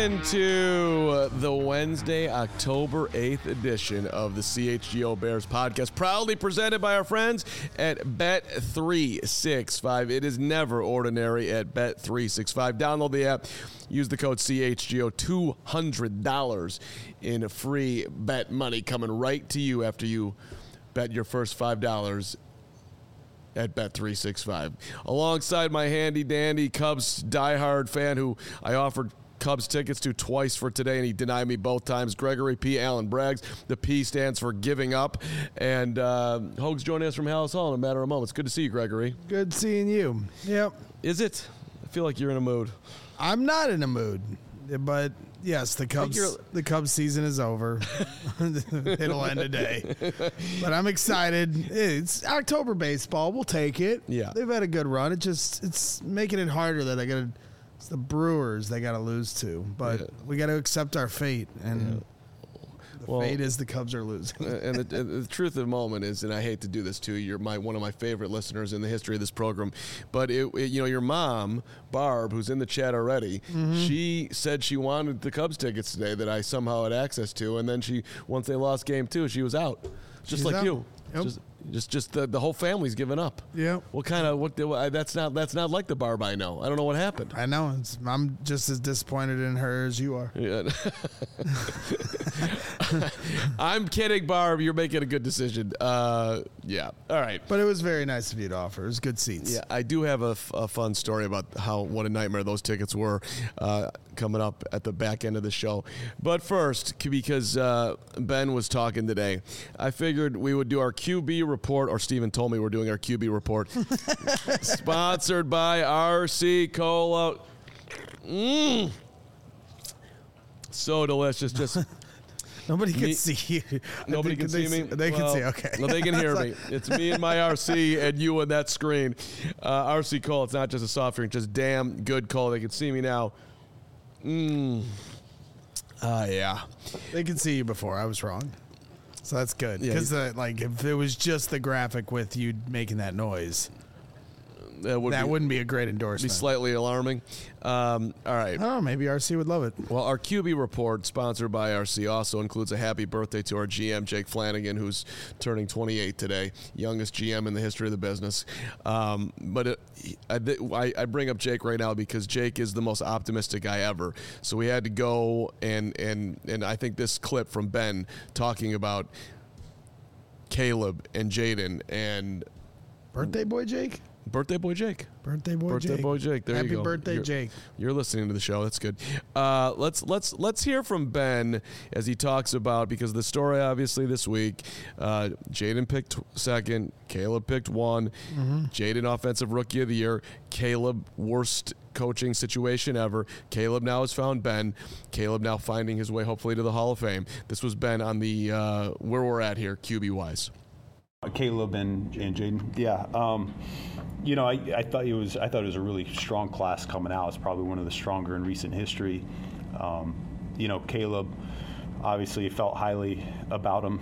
into the Wednesday, October 8th edition of the CHGO Bears podcast, proudly presented by our friends at Bet365. It is never ordinary at Bet365. Download the app, use the code CHGO, $200 in free bet money coming right to you after you bet your first $5 at Bet365. Alongside my handy-dandy Cubs diehard fan who I offered Cubs tickets to twice for today, and he denied me both times, Gregory P. Allen Braggs. The P stands for giving up. And Hoag's joining us from Hallis Hall in a matter of moments. Good to see you, Gregory. Good seeing you. Yep. Is it? I feel like you're in a mood. I'm not in a mood, but yes, the Cubs season is over. It'll end today. But I'm excited. It's October baseball. We'll take it. Yeah. They've had a good run. It's making it harder that it's the Brewers they got to lose to. But we got to accept our fate, and fate is the Cubs are losing. And the truth of the moment is, and I hate to do this to you, you're one of my favorite listeners in the history of this program, but your mom, Barb, who's in the chat already, she said she wanted the Cubs tickets today that I somehow had access to, and then once they lost game 2, she was out. She's like out. You. Yep. Just the whole family's given up. Yeah. That's not like the Barb I know. I don't know what happened. I know. I'm just as disappointed in her as you are. Yeah. I'm kidding, Barb. You're making a good decision. Yeah. All right. But it was very nice of you to offer. It was good seats. Yeah, I do have a fun story about what a nightmare those tickets were coming up at the back end of the show. But first, because Ben was talking today, I figured we would do our QB report, or Steven told me we're doing our QB report. Sponsored by RC Cola. So delicious. Just nobody can see you. Nobody can see me? They can see, okay. No, they can hear me. It's me and my RC and you on that screen. RC Cola, it's not just a soft drink, just damn good cola. They can see me now. Yeah. They can see you before. I was wrong. So that's good. Because if it was just the graphic with you making that noise, that wouldn't be a great endorsement. Be slightly alarming. All right. Oh, maybe RC would love it. Well, our QB report, sponsored by RC, also includes a happy birthday to our GM, Jake Flanagan, who's turning 28 today, youngest GM in the history of the business. But I bring up Jake right now because Jake is the most optimistic guy ever. So we had to go and I think this clip from Ben talking about Caleb and Jaden and birthday boy Jake. Birthday boy Jake. Birthday boy Jake. There Happy you go. Happy birthday, Jake. You're listening to the show. That's good. Let's hear from Ben as he talks about, because the story obviously this week, Jaden picked second, Caleb picked one. Jaden offensive rookie of the year, Caleb worst coaching situation ever. Caleb now has found Ben. Caleb now finding his way hopefully to the Hall of Fame. This was Ben on the where we're at here QB wise. Caleb and Jaden. Yeah. I thought it was a really strong class coming out. It's probably one of the stronger in recent history. Caleb, obviously felt highly about him.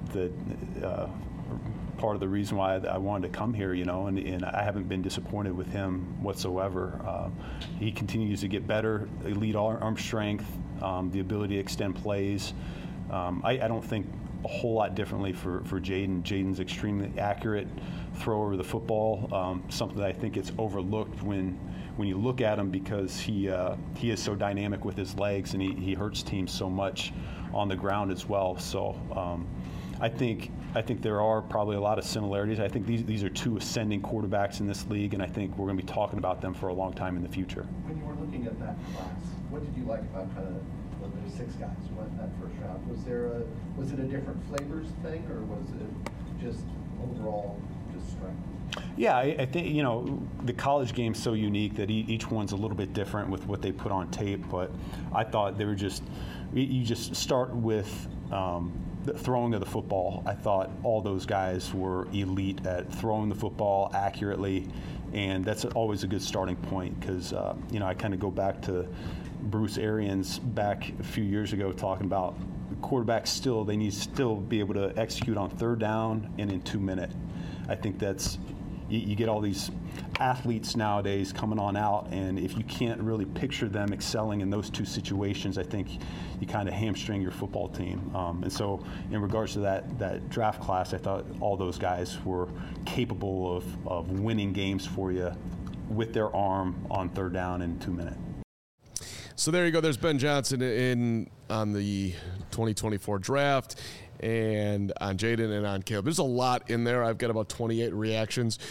Part of the reason why I wanted to come here, and I haven't been disappointed with him whatsoever. He continues to get better, elite arm strength, the ability to extend plays. I don't think a whole lot differently for Jaden. Jaden's extremely accurate thrower of the football, something that I think it's overlooked when you look at him, because he is so dynamic with his legs, and he hurts teams so much on the ground as well. So I think there are probably a lot of similarities. I think these are two ascending quarterbacks in this league, and I think we're going to be talking about them for a long time in the future. When you were looking at that class, what did you like about there's 6 guys went that first round? Was it a different flavors thing, or was it just overall just strength? Yeah, I think the college game's so unique that each one's a little bit different with what they put on tape. But I thought they were you just start with the throwing of the football. I thought all those guys were elite at throwing the football accurately, and that's always a good starting point, because I kind of go back to Bruce Arians back a few years ago talking about quarterbacks they need to still be able to execute on third down and in 2 minutes. I think that's you get all these athletes nowadays coming on out, and if you can't really picture them excelling in those two situations, I think you kind of hamstring your football team. And so in regards to that draft class, I thought all those guys were capable of winning games for you with their arm on third down in 2 minutes. So there you go. There's Ben Johnson on the 2024 draft, and on Jaden and on Caleb. There's a lot in there. I've got about 28 reactions.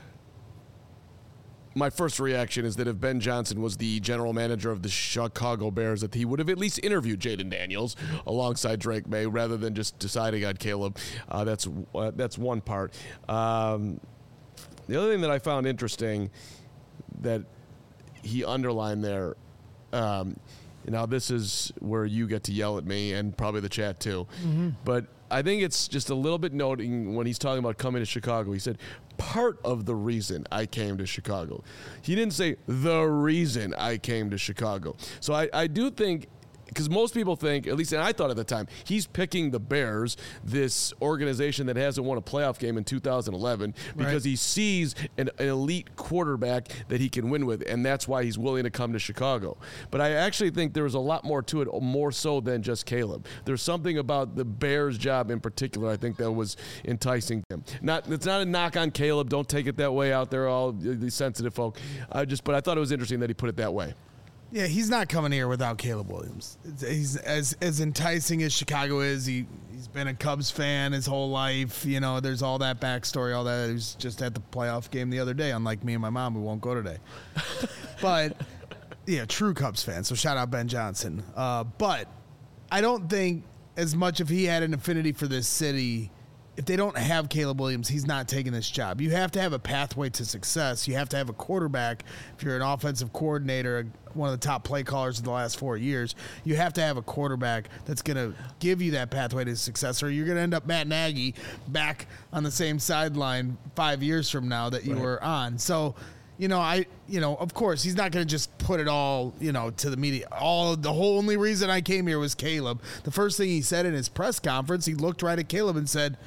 My first reaction is that if Ben Johnson was the general manager of the Chicago Bears, that he would have at least interviewed Jaden Daniels alongside Drake May rather than just deciding on Caleb. That's one part. The other thing that I found interesting that he underlined there, now this is where you get to yell at me and probably the chat too, but I think it's just a little bit noting when he's talking about coming to Chicago. He said, part of the reason I came to Chicago. He didn't say the reason I came to Chicago. So I do think, because most people think, at least and I thought at the time, he's picking the Bears, this organization that hasn't won a playoff game in 2011, because he sees an elite quarterback that he can win with, and that's why he's willing to come to Chicago. But I actually think there's a lot more to it, more so than just Caleb. There's something about the Bears' job in particular, I think, that was enticing him. It's not a knock on Caleb. Don't take it that way out there, all the sensitive folk. But I thought it was interesting that he put it that way. Yeah, he's not coming here without Caleb Williams. He's as enticing as Chicago is. He's been a Cubs fan his whole life. You know, there's all that backstory, all that. He was just at the playoff game the other day, unlike me and my mom, who won't go today. But, yeah, true Cubs fan, so shout out Ben Johnson. But I don't think as much if he had an affinity for this city, if they don't have Caleb Williams, he's not taking this job. You have to have a pathway to success. You have to have a quarterback. If you're an offensive coordinator, one of the top play callers of the last 4 years, you have to have a quarterback that's going to give you that pathway to success, or you're going to end up Matt Nagy back on the same sideline 5 years from now that you were on. So, of course, he's not going to just put it all, to the media. The whole only reason I came here was Caleb. The first thing he said in his press conference, he looked right at Caleb and said,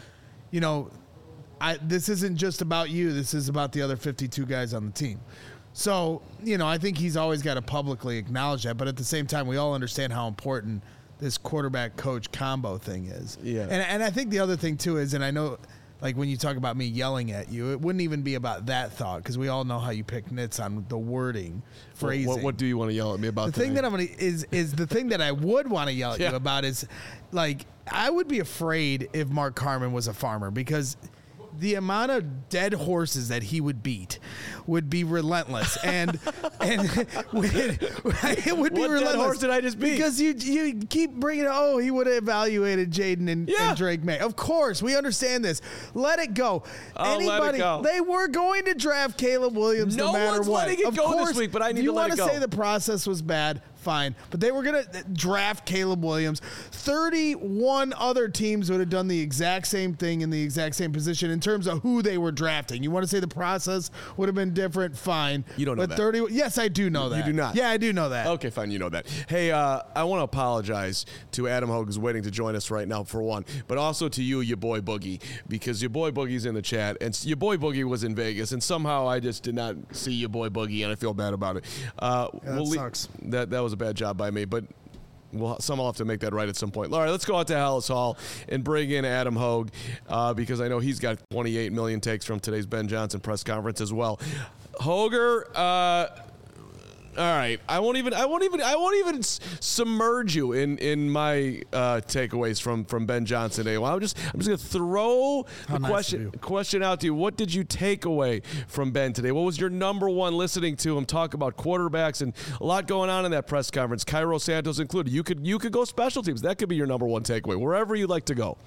this isn't just about you. This is about the other 52 guys on the team. So, I think he's always got to publicly acknowledge that. But at the same time, we all understand how important this quarterback-coach combo thing is. Yeah. And I think the other thing, too, is, and I know, like, when you talk about me yelling at you, it wouldn't even be about that thought, because we all know how you pick nits on the wording, phrasing. What do you want to yell at me about? The thing that I'm going to is the thing that I would want to yell at you about is, like, I would be afraid if Mark Carman was a farmer, because the amount of dead horses that he would beat would be relentless, and it would be what relentless. Dead horse did I just beat? Because you keep bringing he would have evaluated Jaden and Drake May. Of course, we understand this. Let it go. Let it go. They were going to draft Caleb Williams no matter what. No one's letting it go this week, but I need to let it go. You want to say the process was bad? Fine, but they were going to draft Caleb Williams. 31 other teams would have done the exact same thing in the exact same position in terms of who they were drafting. You want to say the process would have been different? Fine. You don't know that. Yes, I do know that. You do not? Yeah, I do know that. Okay, fine. You know that. Hey, I want to apologize to Adam Hogue, who's waiting to join us right now, for one, but also to you, your boy Boogie, because your boy Boogie's in the chat, and your boy Boogie was in Vegas, and somehow I just did not see your boy Boogie, and I feel bad about it. That sucks. That was a bad job by me, but someone will have to make that right at some point. All right, let's go out to Hallis Hall and bring in Adam Hogue, because I know he's got 28 million takes from today's Ben Johnson press conference as well. Hoger, all right, I won't even submerge you in my takeaways from Ben Johnson today. Well, I'm just gonna throw the question out to you. What did you take away from Ben today? What was your number one listening to him talk about quarterbacks, and a lot going on in that press conference, Cairo Santos included? You could go special teams. That could be your number one takeaway, wherever you'd like to go.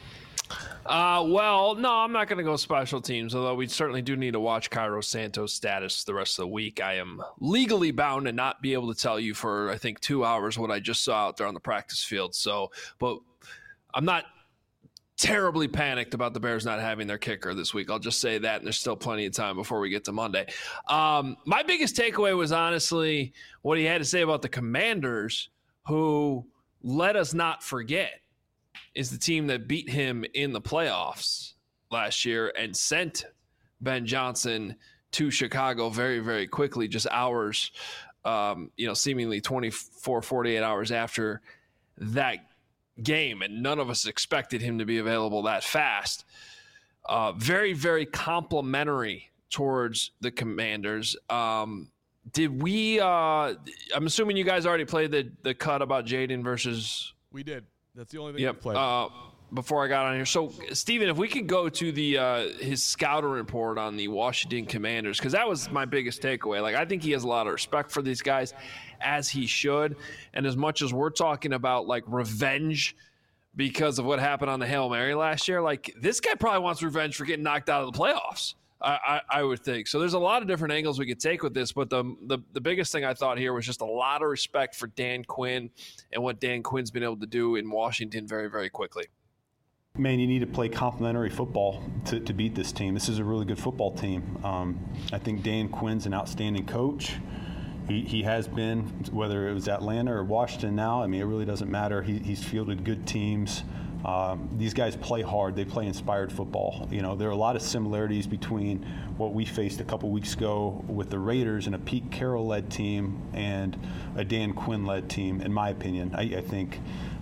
Well, no, I'm not going to go special teams, although we certainly do need to watch Cairo Santos' status the rest of the week. I am legally bound to not be able to tell you for, I think, 2 hours what I just saw out there on the practice field. But I'm not terribly panicked about the Bears not having their kicker this week. I'll just say that, and there's still plenty of time before we get to Monday. My biggest takeaway was honestly what he had to say about the Commanders, who, let us not forget, is the team that beat him in the playoffs last year and sent Ben Johnson to Chicago very, very quickly, just hours, seemingly 24, 48 hours after that game. And none of us expected him to be available that fast. Very, very complimentary towards the Commanders. Did we I'm assuming you guys already played the cut about Jaden versus... We did. That's the only thing we played. Before I got on here. So, Steven, if we could go to the his scouting report on the Washington Commanders, because that was my biggest takeaway. Like, I think he has a lot of respect for these guys, as he should. And as much as we're talking about, like, revenge because of what happened on the Hail Mary last year, like, this guy probably wants revenge for getting knocked out of the playoffs. I would think. So there's a lot of different angles we could take with this, but the biggest thing I thought here was just a lot of respect for Dan Quinn and what Dan Quinn's been able to do in Washington very, very quickly. Man, you need to play complementary football to beat this team. This is a really good football team. I think Dan Quinn's an outstanding coach. He has been, whether it was Atlanta or Washington now, I mean, it really doesn't matter. He's fielded good teams. These guys play hard. They play inspired football. You know, there are a lot of similarities between what we faced a couple weeks ago with the Raiders and a Pete Carroll-led team and a Dan Quinn-led team, in my opinion. I think,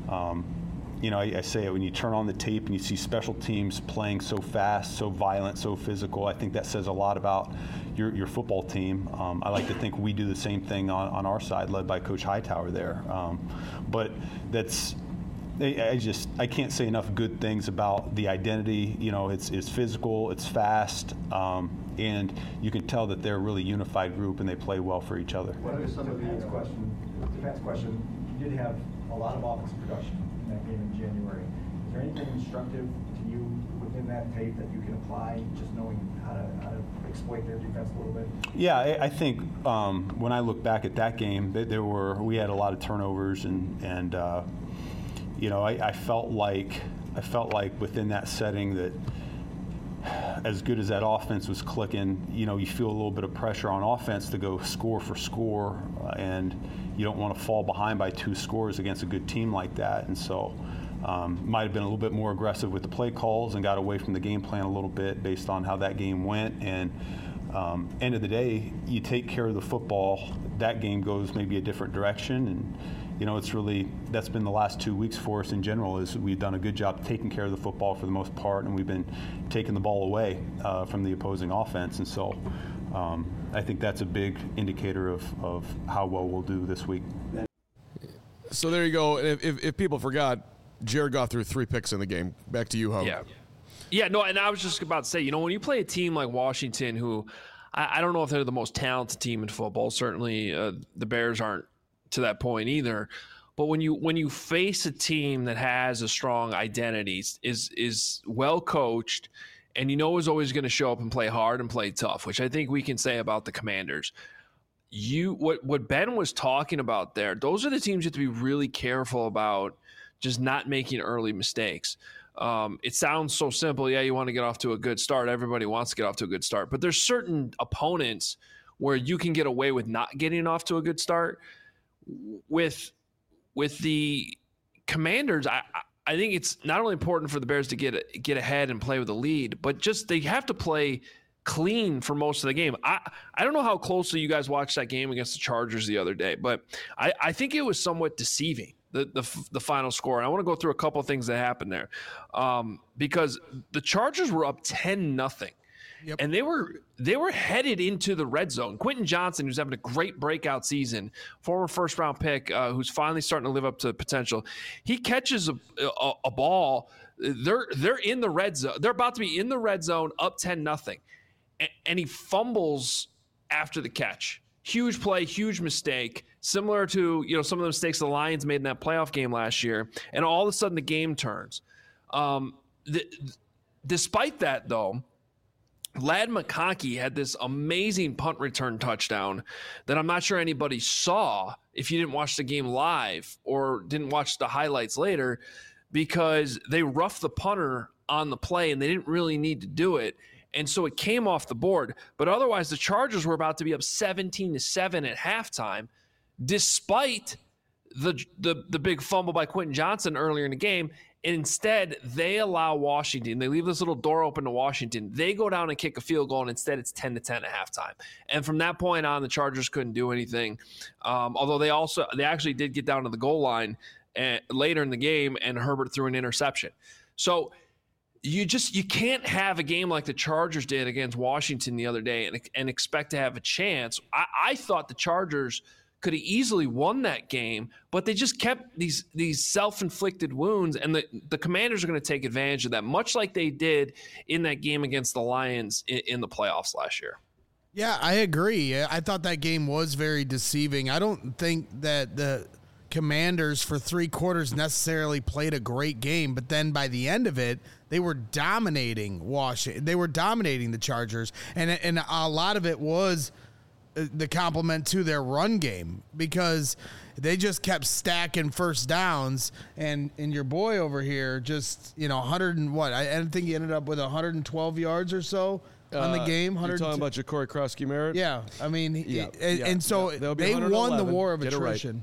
I say it, when you turn on the tape and you see special teams playing so fast, so violent, so physical, I think that says a lot about your football team. I like to think we do the same thing on our side, led by Coach Hightower there. But that's... I can't say enough good things about the identity. You know, it's physical, it's fast, and you can tell that they're a really unified group and they play well for each other. What are some of the defense question? You did have a lot of offensive production in that game in January. Is there anything instructive to you within that tape that you can apply, just knowing how to exploit their defense a little bit? Yeah, I think when I look back at that game, we had a lot of turnovers and I felt like within that setting that as good as that offense was clicking, you feel a little bit of pressure on offense to go score for score, and you don't want to fall behind by 2 scores against a good team like that. And so might have been a little bit more aggressive with the play calls and got away from the game plan a little bit based on how that game went. And end of the day, you take care of the football, that game goes maybe a different direction. And that's been the last 2 weeks for us in general, is we've done a good job taking care of the football for the most part, and we've been taking the ball away from the opposing offense. And so I think that's a big indicator of how well we'll do this week. So there you go. If people forgot, Jared Goff threw 3 picks in the game. Back to you, Ho. Yeah, no, and I was just about to say, when you play a team like Washington, who I don't know if they're the most talented team in football. Certainly the Bears aren't to that point either. But when you face a team that has a strong identity, is well coached, and is always going to show up and play hard and play tough, which I think we can say about the Commanders. What Ben was talking about there, those are the teams you have to be really careful about, just not making early mistakes. It sounds so simple. Yeah, you want to get off to a good start. Everybody wants to get off to a good start. But there's certain opponents where you can get away with not getting off to a good start. With the Commanders, I think it's not only important for the Bears to get ahead and play with a lead, but just they have to play clean for most of the game. I don't know how closely you guys watched that game against the Chargers the other day, but I think it was somewhat deceiving, the final score. And I want to go through a couple of things that happened there, because the Chargers were up 10-0. Yep. And they were headed into the red zone. Quentin Johnson, who's having a great breakout season, former first-round pick, who's finally starting to live up to potential, he catches a ball. They're in the red zone. They're about to be in the red zone, up 10-0, and he fumbles after the catch. Huge play, huge mistake, similar to some of the mistakes the Lions made in that playoff game last year. And all of a sudden, the game turns. Despite that, though, Ladd McConkey had this amazing punt return touchdown that I'm not sure anybody saw if you didn't watch the game live or didn't watch the highlights later, because they roughed the punter on the play and they didn't really need to do it. And so it came off the board. But otherwise, the Chargers were about to be up 17-7 at halftime, despite the big fumble by Quentin Johnson earlier in the game. Instead, they allow Washington. They leave this little door open to Washington. They go down and kick a field goal, and instead it's 10-10 at halftime. And from that point on, the Chargers couldn't do anything. Although they actually did get down to the goal line later in the game, and Herbert threw an interception. So you can't have a game like the Chargers did against Washington the other day and expect to have a chance. I thought the Chargers could have easily won that game, but they just kept these self-inflicted wounds, and the Commanders are going to take advantage of that, much like they did in that game against the Lions in the playoffs last year. Yeah, I agree. I thought that game was very deceiving. I don't think that the Commanders for 3 quarters necessarily played a great game, but then by the end of it, they were dominating Washington. They were dominating the Chargers, and a lot of it was the compliment to their run game, because they just kept stacking first downs, and your boy over here just 100 and what? I think he ended up with 112 yards or so on the game. You're talking about Ja'Cory Krosky-Merritt? Yeah, I mean, and so they won the war of attrition.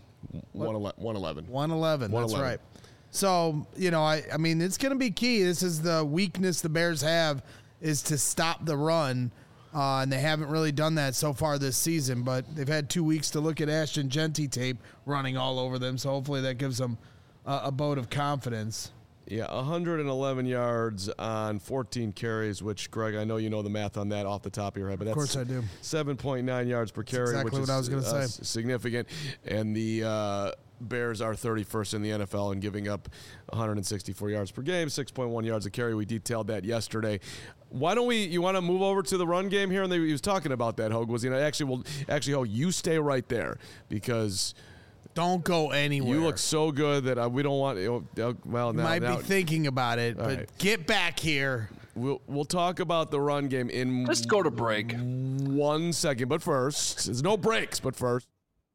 111. 111. That's right. So I mean, it's going to be key. This is the weakness the Bears have, is to stop the run. And they haven't really done that so far this season, but they've had 2 weeks to look at Ashton Jeanty tape running all over them, so hopefully that gives them a vote of confidence. Yeah, 111 yards on 14 carries, which, Greg, I know you know the math on that off the top of your head, but that's, of course I do. 7.9 yards per carry, exactly which what is I was going to say. Significant. And the Bears are 31st in the NFL in giving up 164 yards per game, 6.1 yards a carry. We detailed that yesterday. Why don't you want to move over to the run game here? And he was talking about that, Hogue. Actually, Hogue, you stay right there, because don't go anywhere. You look so good that we don't want. Well, now, might be thinking about it, but right. Get back here. We'll talk about the run game in. Just go to break. 1 second, but first, there's no breaks. But first.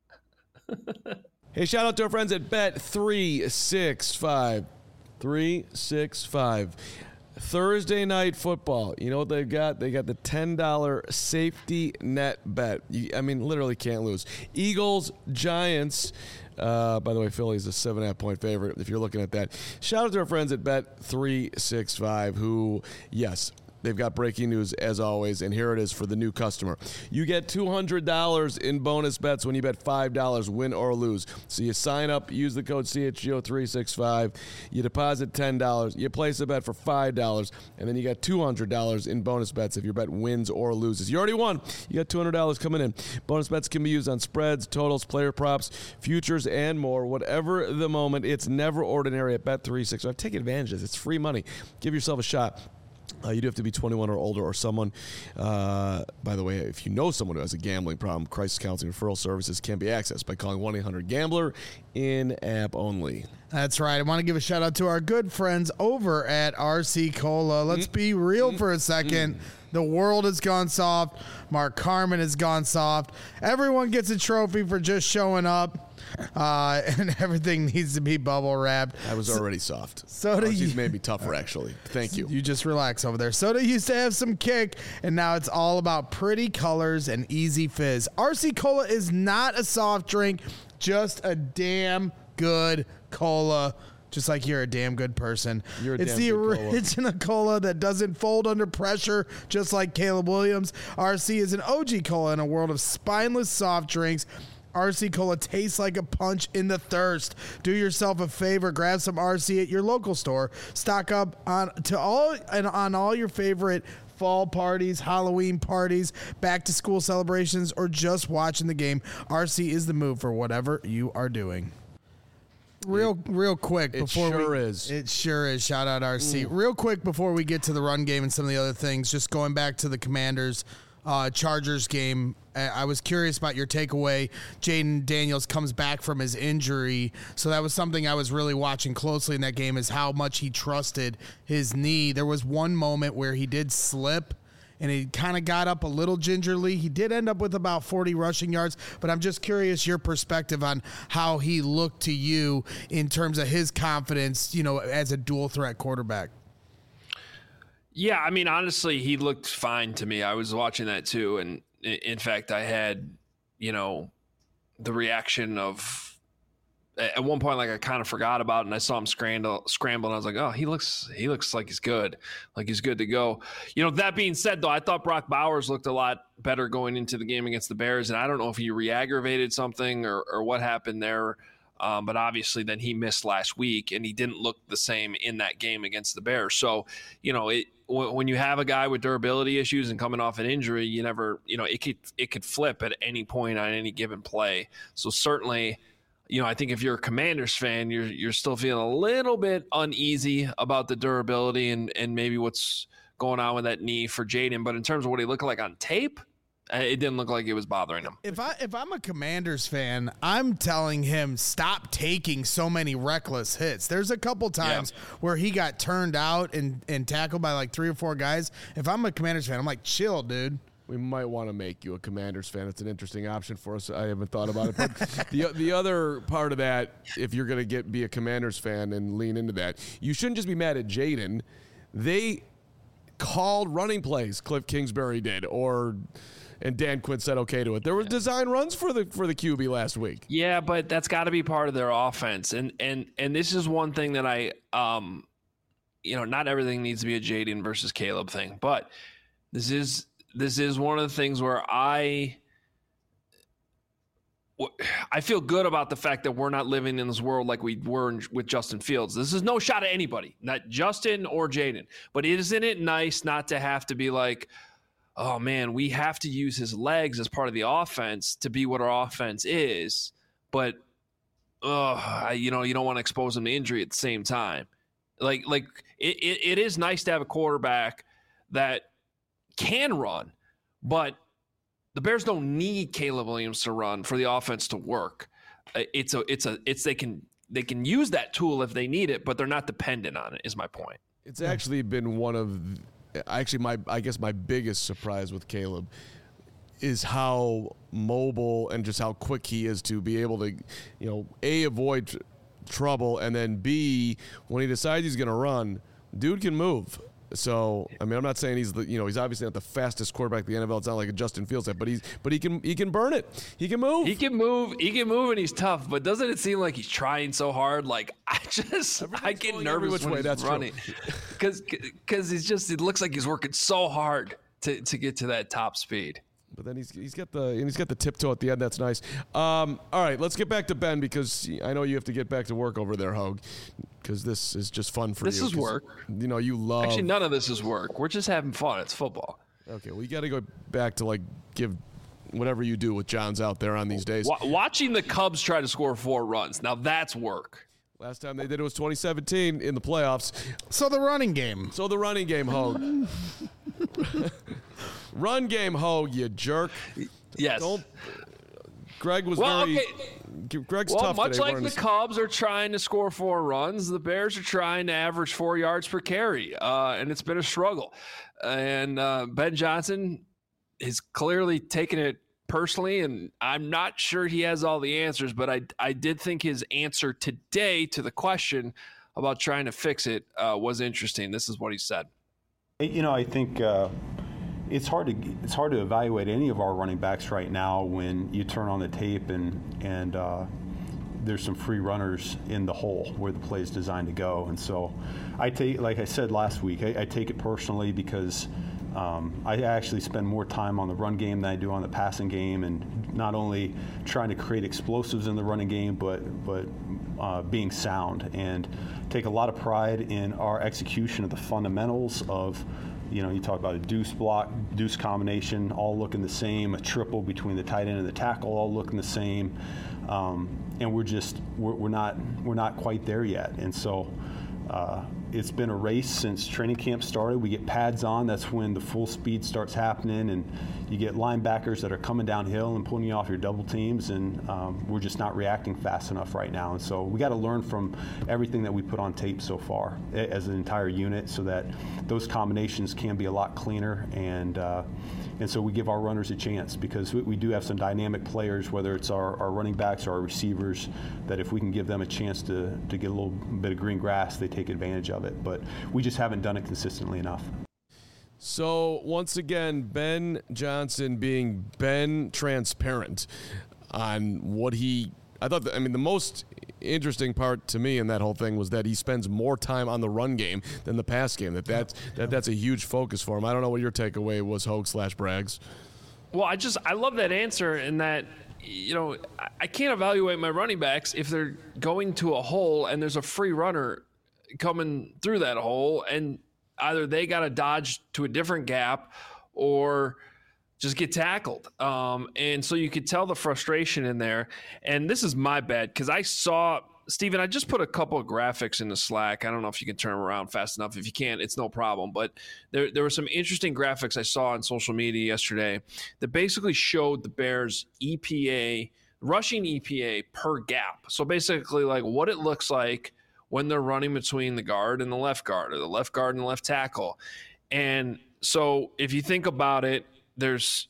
Hey, shout out to our friends at Bet365. 365. Thursday night football. You know what they've got? They got the $10 safety net bet. I mean, literally can't lose. Eagles, Giants. By the way, Philly's a 7.5-point favorite if you're looking at that. Shout out to our friends at Bet365 who, yes, they've got breaking news as always, and here it is for the new customer. You get $200 in bonus bets when you bet $5, win or lose. So you sign up, use the code CHGO365, you deposit $10, you place a bet for $5, and then you got $200 in bonus bets if your bet wins or loses. You already won. You got $200 coming in. Bonus bets can be used on spreads, totals, player props, futures, and more. Whatever the moment, it's never ordinary at Bet365. Take advantage of this. It's free money. Give yourself a shot. You do have to be 21 or older, or someone, by the way, if you know someone who has a gambling problem, crisis counseling referral services can be accessed by calling 1-800-GAMBLER, in-app only. That's right. I want to give a shout out to our good friends over at RC Cola. Let's be real for a second. The world has gone soft. Mark Carman has gone soft. Everyone gets a trophy for just showing up. And everything needs to be bubble wrapped. I was already soft. Soda She's made me tougher, actually. Thank you. You just relax over there. Soda used to have some kick, and now it's all about pretty colors and easy fizz. RC Cola is not a soft drink, just a damn good cola. Just like you're a damn good person. It's the original cola that doesn't fold under pressure, just like Caleb Williams. RC is an OG cola in a world of spineless soft drinks. RC Cola tastes like a punch in the thirst. Do yourself a favor, grab some RC at your local store. Stock up on all your favorite fall parties, Halloween parties, back to school celebrations, or just watching the game. RC is the move for whatever you are doing. Real quick before it sure is. Shout out RC. Real quick before we get to the run game and some of the other things, just going back to the Commanders Chargers game. I was curious about your takeaway. Jaden Daniels comes back from his injury, so that was something I was really watching closely in that game, is how much he trusted his knee. There was one moment where he did slip, and he kind of got up a little gingerly. He did end up with about 40 rushing yards, but I'm just curious your perspective on how he looked to you in terms of his confidence, as a dual threat quarterback. Yeah, I mean, honestly, he looked fine to me. I was watching that too, and in fact, I had, the reaction of at one point, like I kind of forgot about it, and I saw him scramble, and I was like, oh, he looks like he's good. Like he's good to go. That being said, though, I thought Brock Bowers looked a lot better going into the game against the Bears, and I don't know if he re-aggravated something or what happened there. But obviously then he missed last week, and he didn't look the same in that game against the Bears. So, when you have a guy with durability issues and coming off an injury, you never, it could flip at any point on any given play. So certainly, I think if you're a Commanders fan, you're still feeling a little bit uneasy about the durability and maybe what's going on with that knee for Jayden. But in terms of what he looked like on tape, it didn't look like it was bothering him. If I'm a Commanders fan, I'm telling him stop taking so many reckless hits. There's a couple times where he got turned out and tackled by like 3 or 4 guys. If I'm a Commanders fan, I'm like, chill, dude. We might want to make you a Commanders fan. It's an interesting option for us. I haven't thought about it. But the other part of that, if you're going to be a Commanders fan and lean into that, you shouldn't just be mad at Jayden. They called running plays. Cliff Kingsbury did, and Dan Quinn said okay to it. There were design runs for the QB last week. Yeah, but that's got to be part of their offense. And this is one thing that I not everything needs to be a Jayden versus Caleb thing, but this is one of the things where I feel good about the fact that we're not living in this world like we were with Justin Fields. This is no shot at anybody, not Justin or Jayden. But isn't it nice not to have to be like, oh, man, we have to use his legs as part of the offense to be what our offense is. But, you don't want to expose him to injury at the same time. Like it is nice to have a quarterback that can run, but the Bears don't need Caleb Williams to run for the offense to work. They can use that tool if they need it, but they're not dependent on it, is my point. It's actually been one of my biggest surprise with Caleb is how mobile and just how quick he is to be able to, A, avoid trouble, and then B, when he decides he's going to run, dude can move. So, I mean, I'm not saying he's he's obviously not the fastest quarterback in the NFL. It's not like a Justin Fields type, but he can burn it. He can move. He can move, and he's tough. But doesn't it seem like he's trying so hard? Like I get nervous when he's running because it looks like he's working so hard to get to that top speed. But then he's got the tiptoe at the end. That's nice. All right, let's get back to Ben because I know you have to get back to work over there, Hogue. Because this is just fun for you. This is work. You love. Actually, none of this is work. We're just having fun. It's football. Okay, well, you got to go back to give whatever you do with John's out there on these days. Watching the Cubs try to score 4 runs. Now that's work. Last time they did it was 2017 in the playoffs. So the running game, Hogue. Run game, Hogue, you jerk. Yes. Greg was Greg's tough much today. Like the Cubs are trying to score 4 runs, the Bears are trying to average 4 yards per carry, and it's been a struggle. And Ben Johnson is clearly taking it personally, and I'm not sure he has all the answers, but I did think his answer today to the question about trying to fix it was interesting. This is what he said. I think it's hard to evaluate any of our running backs right now when you turn on the tape and there's some free runners in the hole where the play is designed to go. And so like I said last week, I take it personally because I actually spend more time on the run game than I do on the passing game, and not only trying to create explosives in the running game, but being sound, and take a lot of pride in our execution of the fundamentals of, you talk about a deuce block, deuce combination, all looking the same, a triple between the tight end and the tackle, all looking the same, and we're not quite there yet, and so. It's been a race since training camp started. We get pads on. That's when the full speed starts happening, and you get linebackers that are coming downhill and pulling you off your double teams, and we're just not reacting fast enough right now. And so we got to learn from everything that we put on tape so far as an entire unit, so that those combinations can be a lot cleaner, and so we give our runners a chance, because we do have some dynamic players, whether it's our running backs or our receivers, that if we can give them a chance to get a little bit of green grass, they take advantage of it. But we just haven't done it consistently enough. So once again, Ben Johnson being Ben transparent on what I thought, the most interesting part to me in that whole thing was that he spends more time on the run game than the pass game. That's a huge focus for him. I don't know what your takeaway was, Hogue/Braggs. Well, I love that answer in that, I can't evaluate my running backs if they're going to a hole and there's a free runner coming through that hole, and either they got to dodge to a different gap or just get tackled. And so you could tell the frustration in there. And this is my bad because I saw – Steven, I just put a couple of graphics in the Slack. I don't know if you can turn them around fast enough. If you can't, it's no problem. But there were some interesting graphics I saw on social media yesterday that basically showed the Bears' EPA, rushing EPA per gap. So basically like what it looks like when they're running between the guard and the left guard, or the left guard and the left tackle. And so if you think about it, there's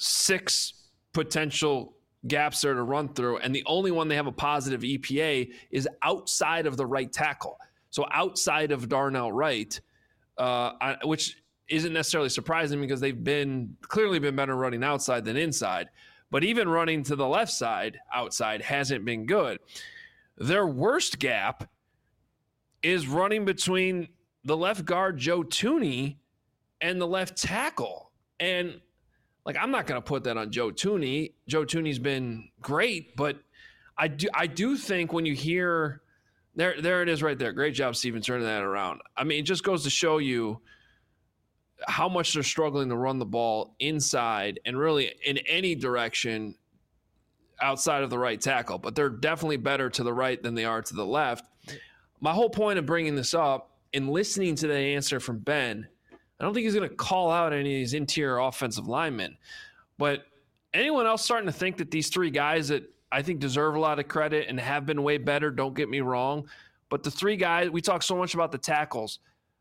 6 potential gaps there to run through, and the only one they have a positive EPA is outside of the right tackle. So outside of Darnell Wright, which isn't necessarily surprising because they've clearly been better running outside than inside. But even running to the left side outside hasn't been good. Their worst gap is running between the left guard, Joe Thuney, and the left tackle. And I'm not going to put that on Joe Thuney. Joe Thuney's been great, but I do think when you hear there it is right there. Great job, Steven, turning that around. I mean, it just goes to show you how much they're struggling to run the ball inside and really in any direction outside of the right tackle. But they're definitely better to the right than they are to the left. My whole point of bringing this up and listening to the answer from Ben, I don't think he's going to call out any of these interior offensive linemen. But anyone else starting to think that these 3 guys that I think deserve a lot of credit and have been way better, don't get me wrong, but the 3 guys, we talk so much about the tackles.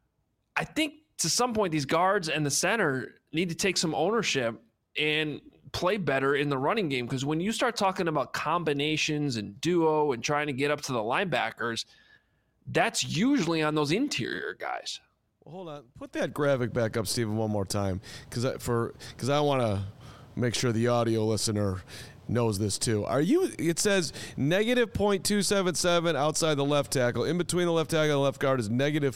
I think to some point these guards and the center need to take some ownership and play better in the running game, because when you start talking about combinations and duo and trying to get up to the linebackers, that's usually on those interior guys. Well, hold on. Put that graphic back up, Steven, one more time, because I want to make sure the audio listener knows this too. It says negative .277 outside the left tackle. In between the left tackle and the left guard is negative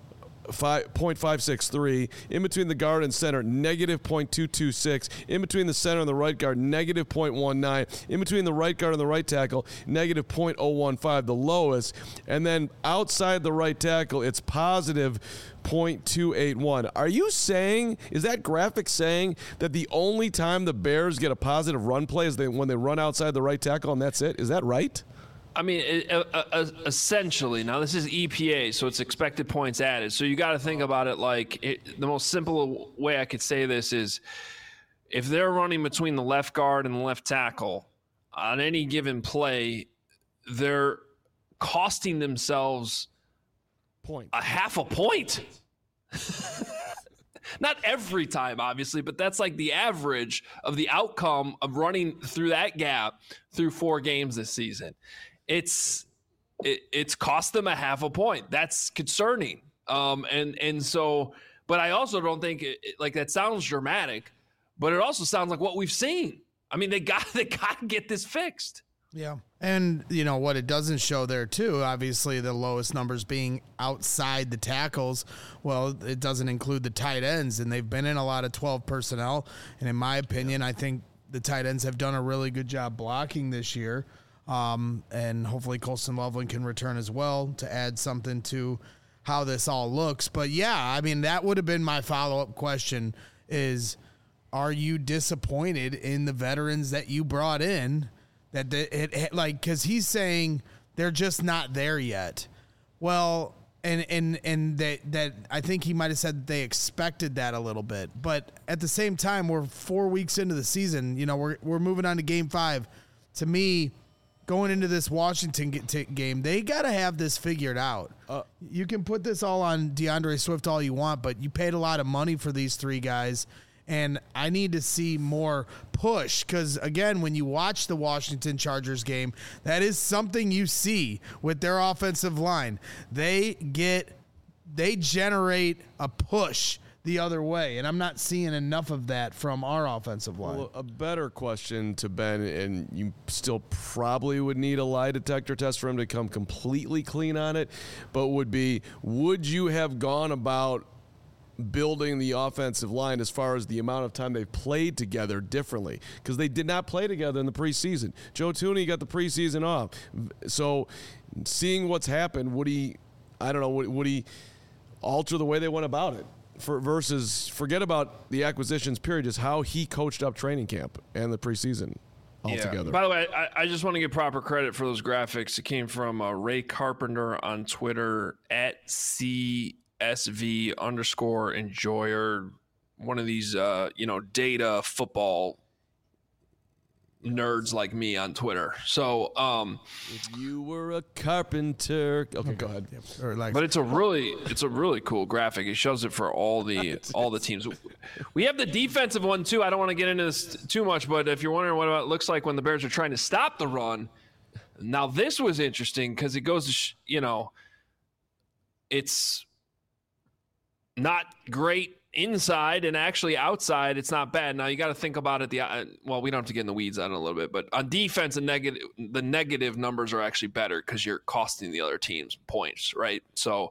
0.563. In between the guard and center, negative .226. In between the center and the right guard, negative .19. In between the right guard and the right tackle, negative .015, the lowest. And then outside the right tackle, it's positive .281. Are you saying, is that graphic saying that the only time the Bears get a positive run play is when they run outside the right tackle and that's it? Is that right? I mean, essentially, now this is EPA, so it's expected points added. So you got to think about it the most simple way I could say this is if they're running between the left guard and the left tackle on any given play, they're costing themselves a half a point. Not every time, obviously, but that's like the average of the outcome of running through that gap through 4 games this season. It's cost them a half a point. That's concerning. And so, but I also don't think that sounds dramatic, but it also sounds like what we've seen. I mean, they got to get this fixed. Yeah. And what it doesn't show there too, obviously the lowest numbers being outside the tackles. Well, it doesn't include the tight ends, and they've been in a lot of 12 personnel. And in my opinion, I think the tight ends have done a really good job blocking this year. And hopefully Colston Loveland can return as well to add something to how this all looks. But yeah, I mean, that would have been my follow-up question is, are you disappointed in the veterans that you brought in? Because he's saying they're just not there yet. Well, and that I think he might have said that they expected that a little bit. But at the same time, we're 4 weeks into the season. We're moving on to Game 5. To me, going into this Washington game, they got to have this figured out. You can put this all on DeAndre Swift all you want, but you paid a lot of money for these 3 guys, and I need to see more push because, again, when you watch the Washington Chargers game, that is something you see with their offensive line. They generate a push the other way, and I'm not seeing enough of that from our offensive line. Well, a better question to Ben, and you still probably would need a lie detector test for him to come completely clean on it, but would you have gone about building the offensive line as far as the amount of time they've played together differently? Because they did not play together in the preseason. Joe Thuney got the preseason off. So seeing what's happened, would he alter the way they went about it? Versus forget about the acquisitions period, just how he coached up training camp and the preseason altogether. Yeah. By the way, I just want to give proper credit for those graphics. It came from Ray Carpenter on Twitter at CSV_enjoyer, one of these data football nerds like me on Twitter. So if you were a carpenter, okay, go ahead. But it's a really cool graphic. It shows it for all the teams. We have the defensive one too. I don't want to get into this too much, but if you're wondering what it looks like when the Bears are trying to stop the run, now this was interesting because it goes to it's not great inside, and actually outside it's not bad. Now you got to think about it. We don't have to get in the weeds on it a little bit, but on defense, the negative numbers are actually better because you're costing the other teams points, right? So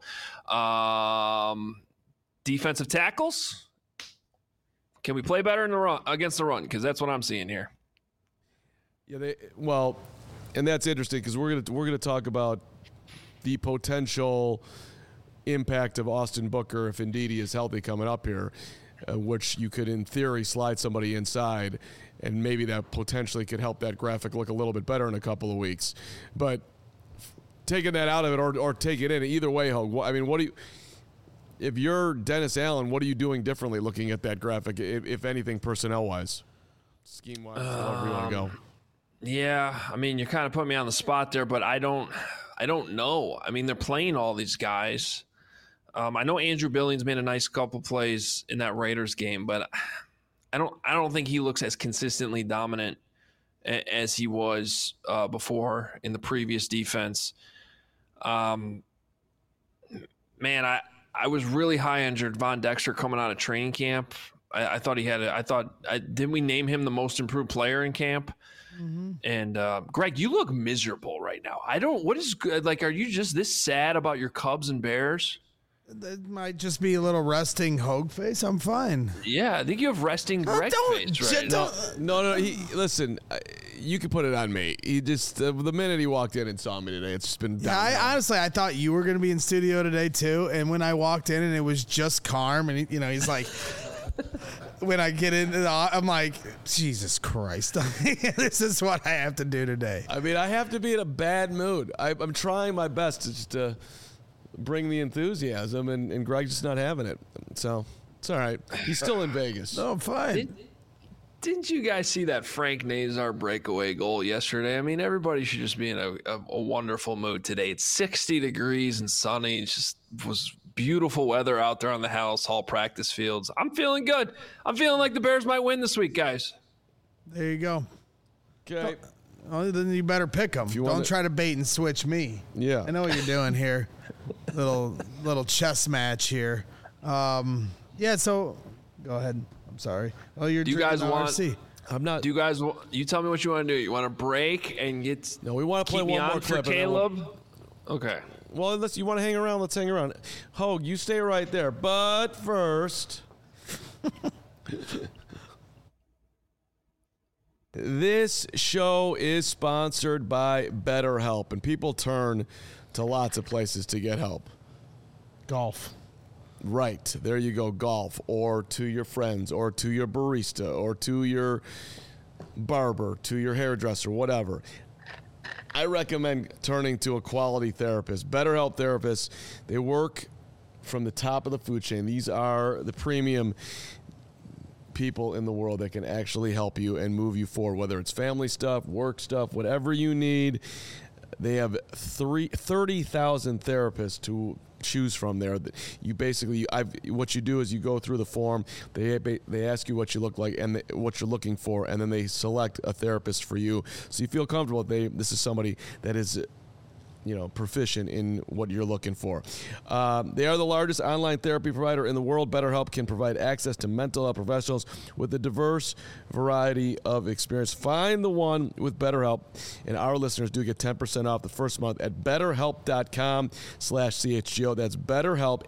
defensive tackles, can we play better in the run against the run? Because that's what I'm seeing here. Yeah, and that's interesting because we're gonna talk about the potential impact of Austin Booker if indeed he is healthy coming up here, which you could in theory slide somebody inside, and maybe that potentially could help that graphic look a little bit better in a couple of weeks. But taking that out of it or take it in, either way, Hogue, I mean, if you're Dennis Allen, what are you doing differently looking at that graphic, if anything, personnel-wise, scheme-wise, however you want to go? Yeah, I mean, you're kind of putting me on the spot there, but I don't know. I mean, they're playing all these guys. I know Andrew Billings made a nice couple plays in that Raiders game, but I don't think he looks as consistently dominant as he was before in the previous defense. Man, I was really high on Gervon Dexter coming out of training camp. I thought didn't we name him the most improved player in camp? Mm-hmm. And Greg, you look miserable right now. What is good? Like, are you just this sad about your Cubs and Bears? That might just be a little resting Hogue face. I'm fine. Yeah, I think you have resting Greg face right now. No. Listen, you can put it on me. He just the minute he walked in and saw me today, it's just been down. Honestly, I thought you were going to be in studio today too. And when I walked in and it was just Carm, and he's like, when I get in, I'm like, Jesus Christ, this is what I have to do today. I mean, I have to be in a bad mood. I'm trying my best to just bring the enthusiasm, and Greg's just not having it. So it's all right. He's still in Vegas. No, I'm fine. Didn't you guys see that Frank Nazar breakaway goal yesterday? I mean, everybody should just be in a wonderful mood today. It's 60 degrees and sunny. It just was beautiful weather out there on the Hallis Hall practice fields. I'm feeling good. I'm feeling like the Bears might win this week, guys. There you go. Okay. Oh, then you better pick them. Don't try to bait and switch me. Yeah. I know what you're doing here. little chess match here. So go ahead. I'm sorry. Oh, you're. Do you guys want? RC. I'm not. Do you guys? You tell me what you want to do. You want to break and get? No, we want to play one more clip for Caleb. Okay. Well, unless you want to hang around, let's hang around. Hogue, you stay right there. But first, this show is sponsored by BetterHelp, and people turn to lots of places to get help. Golf. Right. There you go, golf, or to your friends, or to your barista, or to your barber, to your hairdresser, whatever. I recommend turning to a quality therapist. BetterHelp therapists, they work from the top of the food chain. These are the premium people in the world that can actually help you and move you forward, whether it's family stuff, work stuff, whatever you need. They have 30,000 therapists to choose from there. You basically, what you do is you go through the form. They ask you what you look like and what you're looking for, and then they select a therapist for you. So you feel comfortable. This is somebody that is proficient in what you're looking for. They are the largest online therapy provider in the world. BetterHelp can provide access to mental health professionals with a diverse variety of experience. Find the one with BetterHelp, and our listeners do get 10% off the first month at BetterHelp.com/CHGO. That's BetterHelp,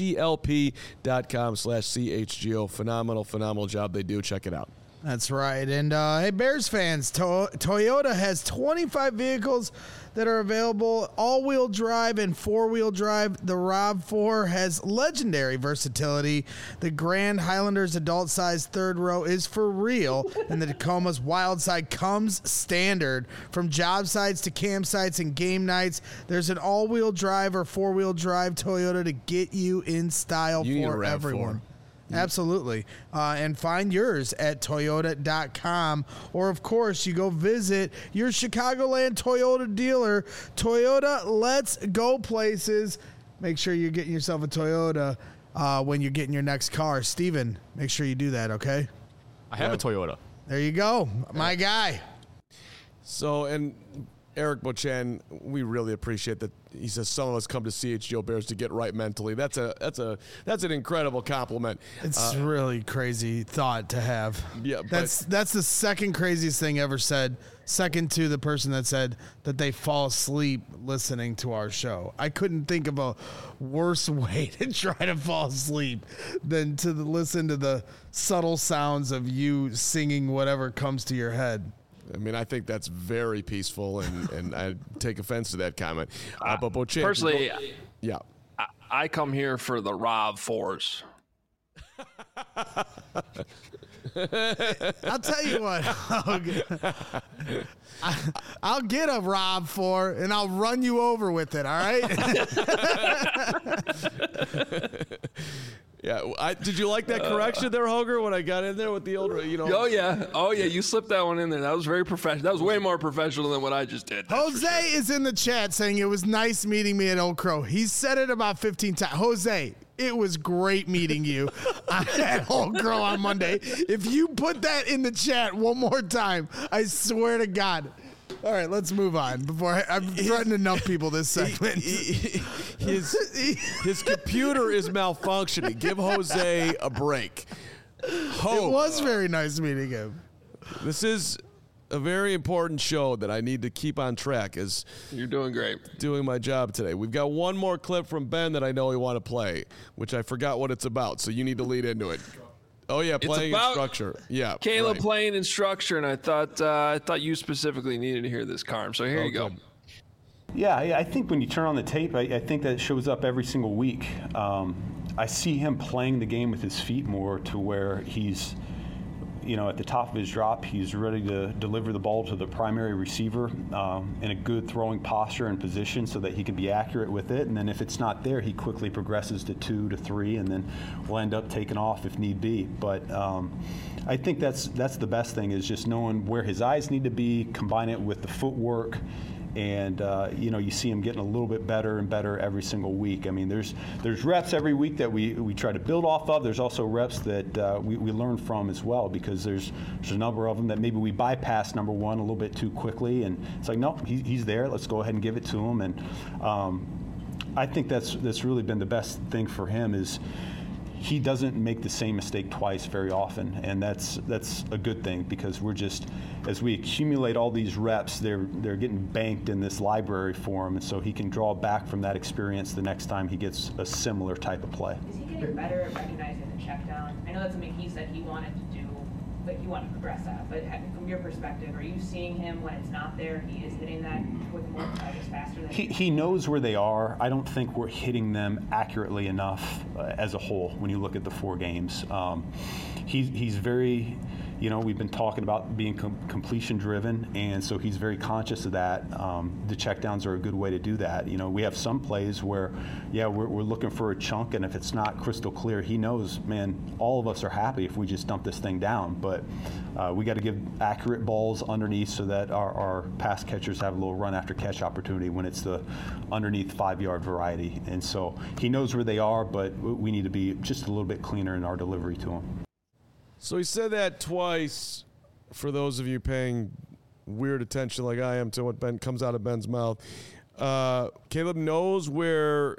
HELP.com/CHGO. Phenomenal job they do. Check it out. That's right. And hey, Bears fans, Toyota has 25 vehicles that are available, all-wheel drive and four-wheel drive. The RAV4 has legendary versatility. The Grand Highlander's adult-sized third row is for real, and the Tacoma's wild side comes standard. From job sites to campsites and game nights, there's an all-wheel drive or four-wheel drive Toyota to get you in style for everyone. Absolutely. And find yours at Toyota.com. Or, of course, you go visit your Chicagoland Toyota dealer. Toyota, let's go places. Make sure you're getting yourself a Toyota when you're getting your next car. Steven, make sure you do that, okay? I have a Toyota. There you go. My guy. So, and Eric Beauchamp, we really appreciate that. He says some of us come to CHGO Bears to get right mentally. That's an incredible compliment. It's really crazy thought to have. Yeah, that's the second craziest thing ever said. Second to the person that said that they fall asleep listening to our show. I couldn't think of a worse way to try to fall asleep than to listen to the subtle sounds of you singing whatever comes to your head. I mean, I think that's very peaceful, and I take offense to that comment. But Beauchamp, personally, yeah, I come here for the RAV4s. I'll tell you what, I'll get a RAV4 and I'll run you over with it. All right. Yeah, did you like that correction there, Hoger, when I got in there with the old, Oh yeah, you slipped that one in there. That was very professional. That was way more professional than what I just did. Jose is in the chat saying it was nice meeting me at Old Crow. He said it about 15 times. Jose, it was great meeting you at Old Crow on Monday. If you put that in the chat one more time, I swear to God. All right, let's move on before I've threatened enough people this segment. His computer is malfunctioning. Give Jose a break. It was very nice meeting him. This is a very important show that I need to keep on track as you're doing great. Doing my job today. We've got one more clip from Ben that I know we want to play, which I forgot what it's about, so you need to lead into it. Oh yeah, playing in structure. Yeah, Caleb playing in structure, and I thought you specifically needed to hear this, Carm. So here you go. Good. Yeah, I think when you turn on the tape, I think that shows up every single week. I see him playing the game with his feet more to where he's, at the top of his drop, he's ready to deliver the ball to the primary receiver in a good throwing posture and position so that he can be accurate with it. And then if it's not there, he quickly progresses to 2 to 3, and then we'll end up taking off if need be. But I think that's the best thing is just knowing where his eyes need to be, combine it with the footwork. And, you see him getting a little bit better and better every single week. I mean, there's reps every week that we try to build off of. There's also reps that we learn from as well, because there's a number of them that maybe we bypass number one a little bit too quickly. And it's like, no, he's there. Let's go ahead and give it to him. And I think that's really been the best thing for him is he doesn't make the same mistake twice very often, and that's a good thing, because we're just, as we accumulate all these reps, they're getting banked in this library for him, and so he can draw back from that experience the next time he gets a similar type of play. Is he getting better at recognizing the check down? I know that's something he said he wanted to do, but he wanted to progress at. But from your perspective, are you seeing him when it's not there? He is hitting that with more faster than he knows where they are. I don't think we're hitting them accurately enough as a whole when you look at the 4 games. He's very, we've been talking about being completion driven, and so he's very conscious of that. The checkdowns are a good way to do that. We have some plays where, we're looking for a chunk, and if it's not crystal clear, he knows, man, all of us are happy if we just dump this thing down. But we got to give accurate balls underneath so that our pass catchers have a little run after catch opportunity when it's the underneath 5-yard variety. And so he knows where they are, but we need to be just a little bit cleaner in our delivery to him. So he said that twice. For those of you paying weird attention like I am to what Ben comes out of Ben's mouth, Caleb knows where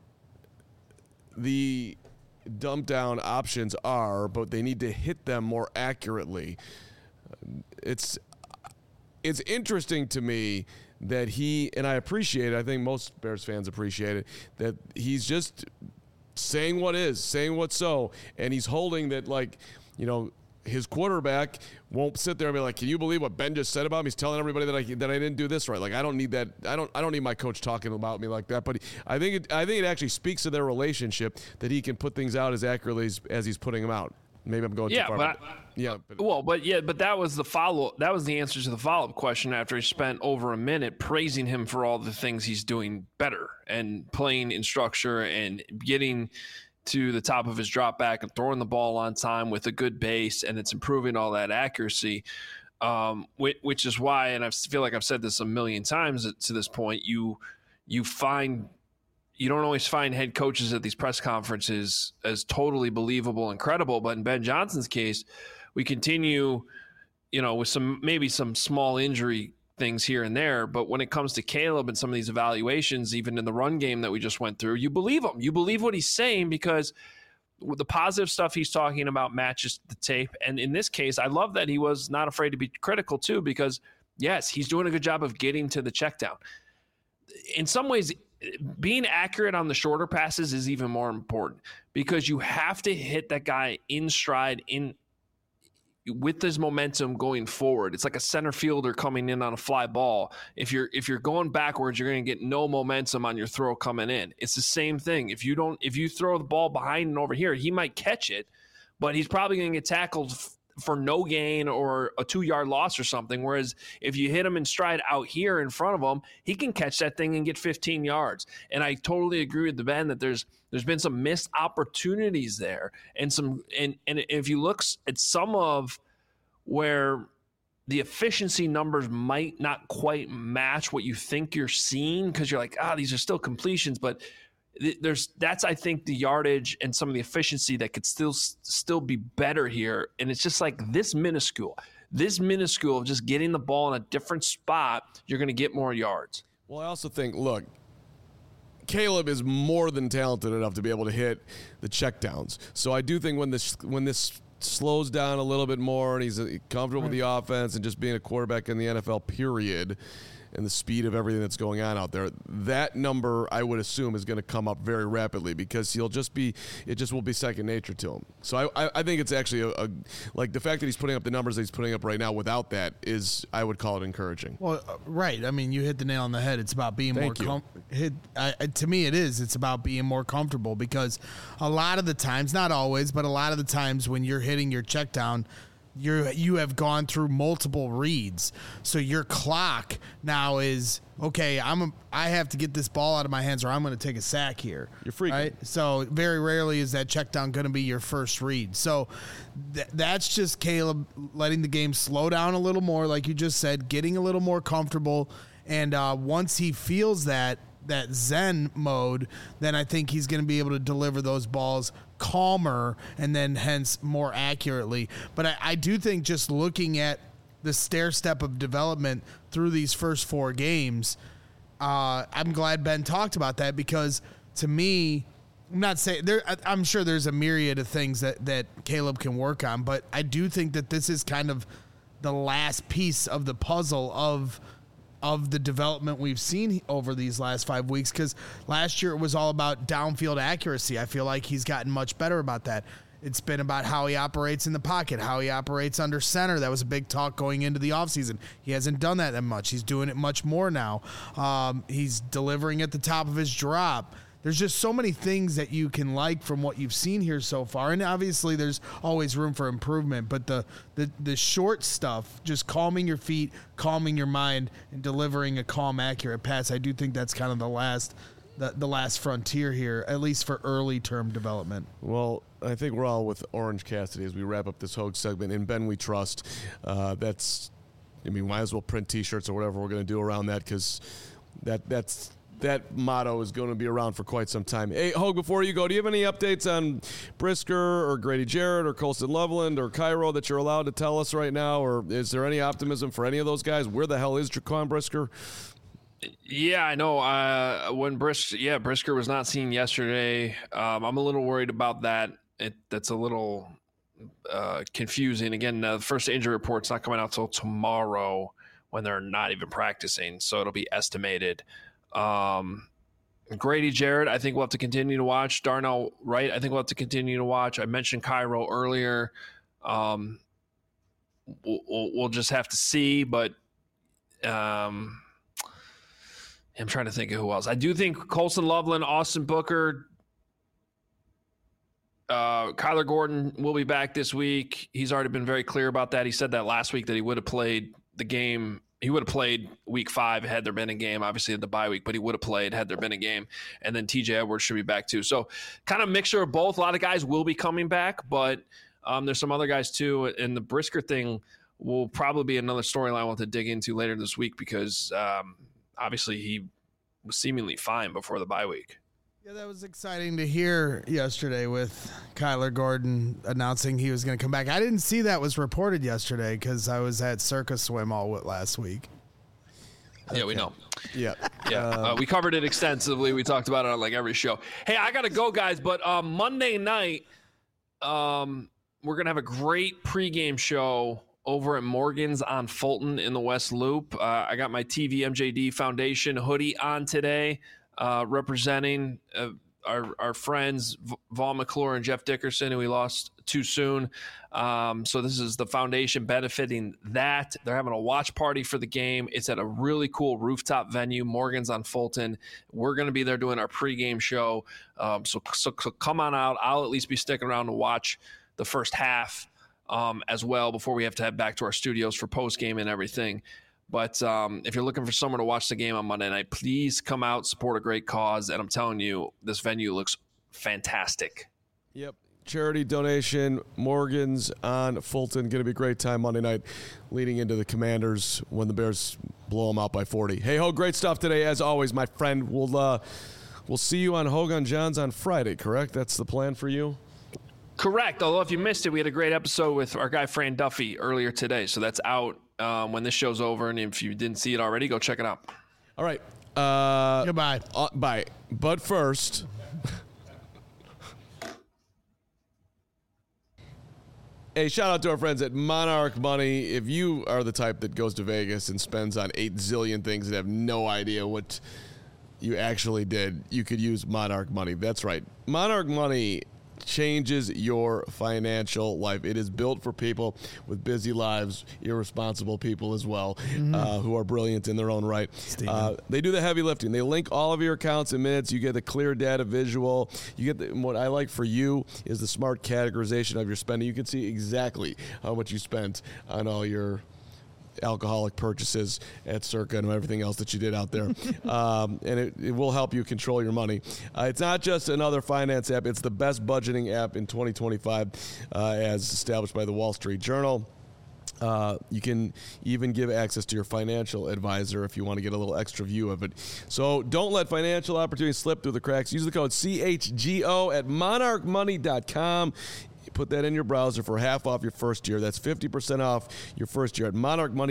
the dump down options are, but they need to hit them more accurately. It's interesting to me that and I appreciate it, I think most Bears fans appreciate it, that he's just saying what's so, and he's holding that, like, his quarterback won't sit there and be like, can you believe what Ben just said about me? He's telling everybody that I didn't do this right. Like, I don't need that. I don't need my coach talking about me like that. But I think it actually speaks to their relationship that he can put things out as accurately as he's putting them out. Maybe I'm going too far. But that was the follow-up. That was the answer to the follow-up question after he spent over a minute praising him for all the things he's doing better and playing in structure and getting to the top of his drop back and throwing the ball on time with a good base, and it's improving all that accuracy, which is why, and I feel like I've said this a million times to this point, you don't always find head coaches at these press conferences as totally believable and credible, but in Ben Johnson's case, we continue, with maybe some small injury things here and there, but when it comes to Caleb and some of these evaluations, even in the run game that we just went through, you believe him. You believe what he's saying because the positive stuff he's talking about matches the tape. And in this case, I love that he was not afraid to be critical too, because yes, he's doing a good job of getting to the check down. In some ways, being accurate on the shorter passes is even more important because you have to hit that guy in stride with his momentum going forward. It's like a center fielder coming in on a fly ball. If you're going backwards, you're going to get no momentum on your throw coming in. It's the same thing. If you throw the ball behind and over here, he might catch it, but he's probably going to get tackled for no gain or a 2-yard loss or something. Whereas if you hit him in stride out here in front of him, he can catch that thing and get 15 yards. And I totally agree with the Ben that there's been some missed opportunities there, and if you look at some of where the efficiency numbers might not quite match what you think you're seeing, because you're like, these are still completions, but that's I think the yardage and some of the efficiency that could still be better here. And it's just like this minuscule of just getting the ball in a different spot, you're going to get more yards. Well, I also think, look, Caleb is more than talented enough to be able to hit the checkdowns. So I do think when this slows down a little bit more and he's comfortable with the offense and just being a quarterback in the NFL, period, and the speed of everything that's going on out there, that number I would assume is going to come up very rapidly because it just will be second nature to him. So I think it's actually like the fact that he's putting up the numbers that he's putting up right now without that is, I would call it encouraging. Well, right. I mean, you hit the nail on the head. It's about being to me it is. It's about being more comfortable because a lot of the times, not always, but a lot of the times when you're hitting your check down, you have gone through multiple reads, so your clock now is okay. I have to get this ball out of my hands, or I'm going to take a sack here. You're freaking. Right? So very rarely is that check down going to be your first read. So that's just Caleb letting the game slow down a little more, like you just said, getting a little more comfortable, and once he feels that Zen mode, then I think he's going to be able to deliver those balls calmer and then hence more accurately. But I do think just looking at the stair step of development through these first 4 games, I'm glad Ben talked about that because to me, I'm not saying I'm sure there's a myriad of things that Caleb can work on, but I do think that this is kind of the last piece of the puzzle of the development we've seen over these last 5 weeks, because last year it was all about downfield accuracy. I feel like he's gotten much better about that. It's been about how he operates in the pocket, how he operates under center. That was a big talk going into the offseason. He hasn't done that much. He's doing it much more now. He's delivering at the top of his drop. There's just so many things that you can like from what you've seen here so far. And obviously there's always room for improvement, but the short stuff, just calming your feet, calming your mind, and delivering a calm, accurate pass, I do think that's kind of the last frontier here, at least for early term development. Well, I think we're all with Orange Cassidy as we wrap up this Hogue segment. In Ben we trust. Might as well print T-shirts or whatever we're going to do around that, because that motto is going to be around for quite some time. Hey, Hogue, before you go, do you have any updates on Brisker or Grady Jarrett or Colston Loveland or Cairo that you're allowed to tell us right now? Or is there any optimism for any of those guys? Where the hell is Jaquan Brisker? Yeah, I know. When Brisker was not seen yesterday. I'm a little worried about that. That's a little confusing. Again, the first injury report's not coming out till tomorrow when they're not even practicing, so it'll be estimated. Grady Jarrett, I think we'll have to continue to watch. Darnell Wright, I think we'll have to continue to watch. I mentioned Cairo earlier. We'll just have to see, but I'm trying to think of who else. I do think Colson Loveland, Austin Booker, Kyler Gordon will be back this week. He's already been very clear about that. He said that last week that he would have played the game. He would have played week 5 had there been a game, obviously at the bye week, but he would have played had there been a game. And then TJ Edwards should be back too. So kind of mixture of both. A lot of guys will be coming back, but there's some other guys too. And the Brisker thing will probably be another storyline we'll have to dig into later this week because obviously he was seemingly fine before the bye week. Yeah, that was exciting to hear yesterday with Kyler Gordon announcing he was going to come back. I didn't see that was reported yesterday because I was at Circus Swim all last week. Yeah, we know. Yeah. Yeah. We covered it extensively. We talked about it on like every show. Hey, I got to go, guys. But Monday night, we're going to have a great pregame show over at Morgan's on Fulton in the West Loop. I got my TV MJD Foundation hoodie on today. Representing our friends Vaughn McClure and Jeff Dickerson, who we lost too soon. So this is the foundation benefiting that. They're having a watch party for the game. It's at a really cool rooftop venue, Morgan's on Fulton. We're going to be there doing our pregame show. So come on out. I'll at least be sticking around to watch the first half as well before we have to head back to our studios for postgame and everything. But if you're looking for someone to watch the game on Monday night, please come out, support a great cause. And I'm telling you, this venue looks fantastic. Yep. Charity donation, Morgan's on Fulton. Going to be a great time Monday night leading into the Commanders when the Bears blow them out by 40. Hey, ho, great stuff today. As always, my friend. We'll see you on Hogan Johns on Friday, correct? That's the plan for you? Correct. Although if you missed it, we had a great episode with our guy Fran Duffy earlier today. So that's out when this show's over. And if you didn't see it already, go check it out. All right. Goodbye. Bye. But first, hey, shout out to our friends at Monarch Money. If you are the type that goes to Vegas and spends on 8 zillion things and have no idea what you actually did, you could use Monarch Money. That's right. Monarch Money changes your financial life. It is built for people with busy lives, irresponsible people as well, who are brilliant in their own right. They do the heavy lifting. They link all of your accounts in minutes. You get the clear data visual. You get what I like for you is the smart categorization of your spending. You can see exactly how much you spent on all your alcoholic purchases at Circa and everything else that you did out there. And it will help you control your money. It's not just another finance app. It's the best budgeting app in 2025 as established by the Wall Street Journal. You can even give access to your financial advisor if you want to get a little extra view of it. So don't let financial opportunities slip through the cracks. Use the code CHGO at monarchmoney.com. Put that in your browser for half off your first year. That's 50% off your first year at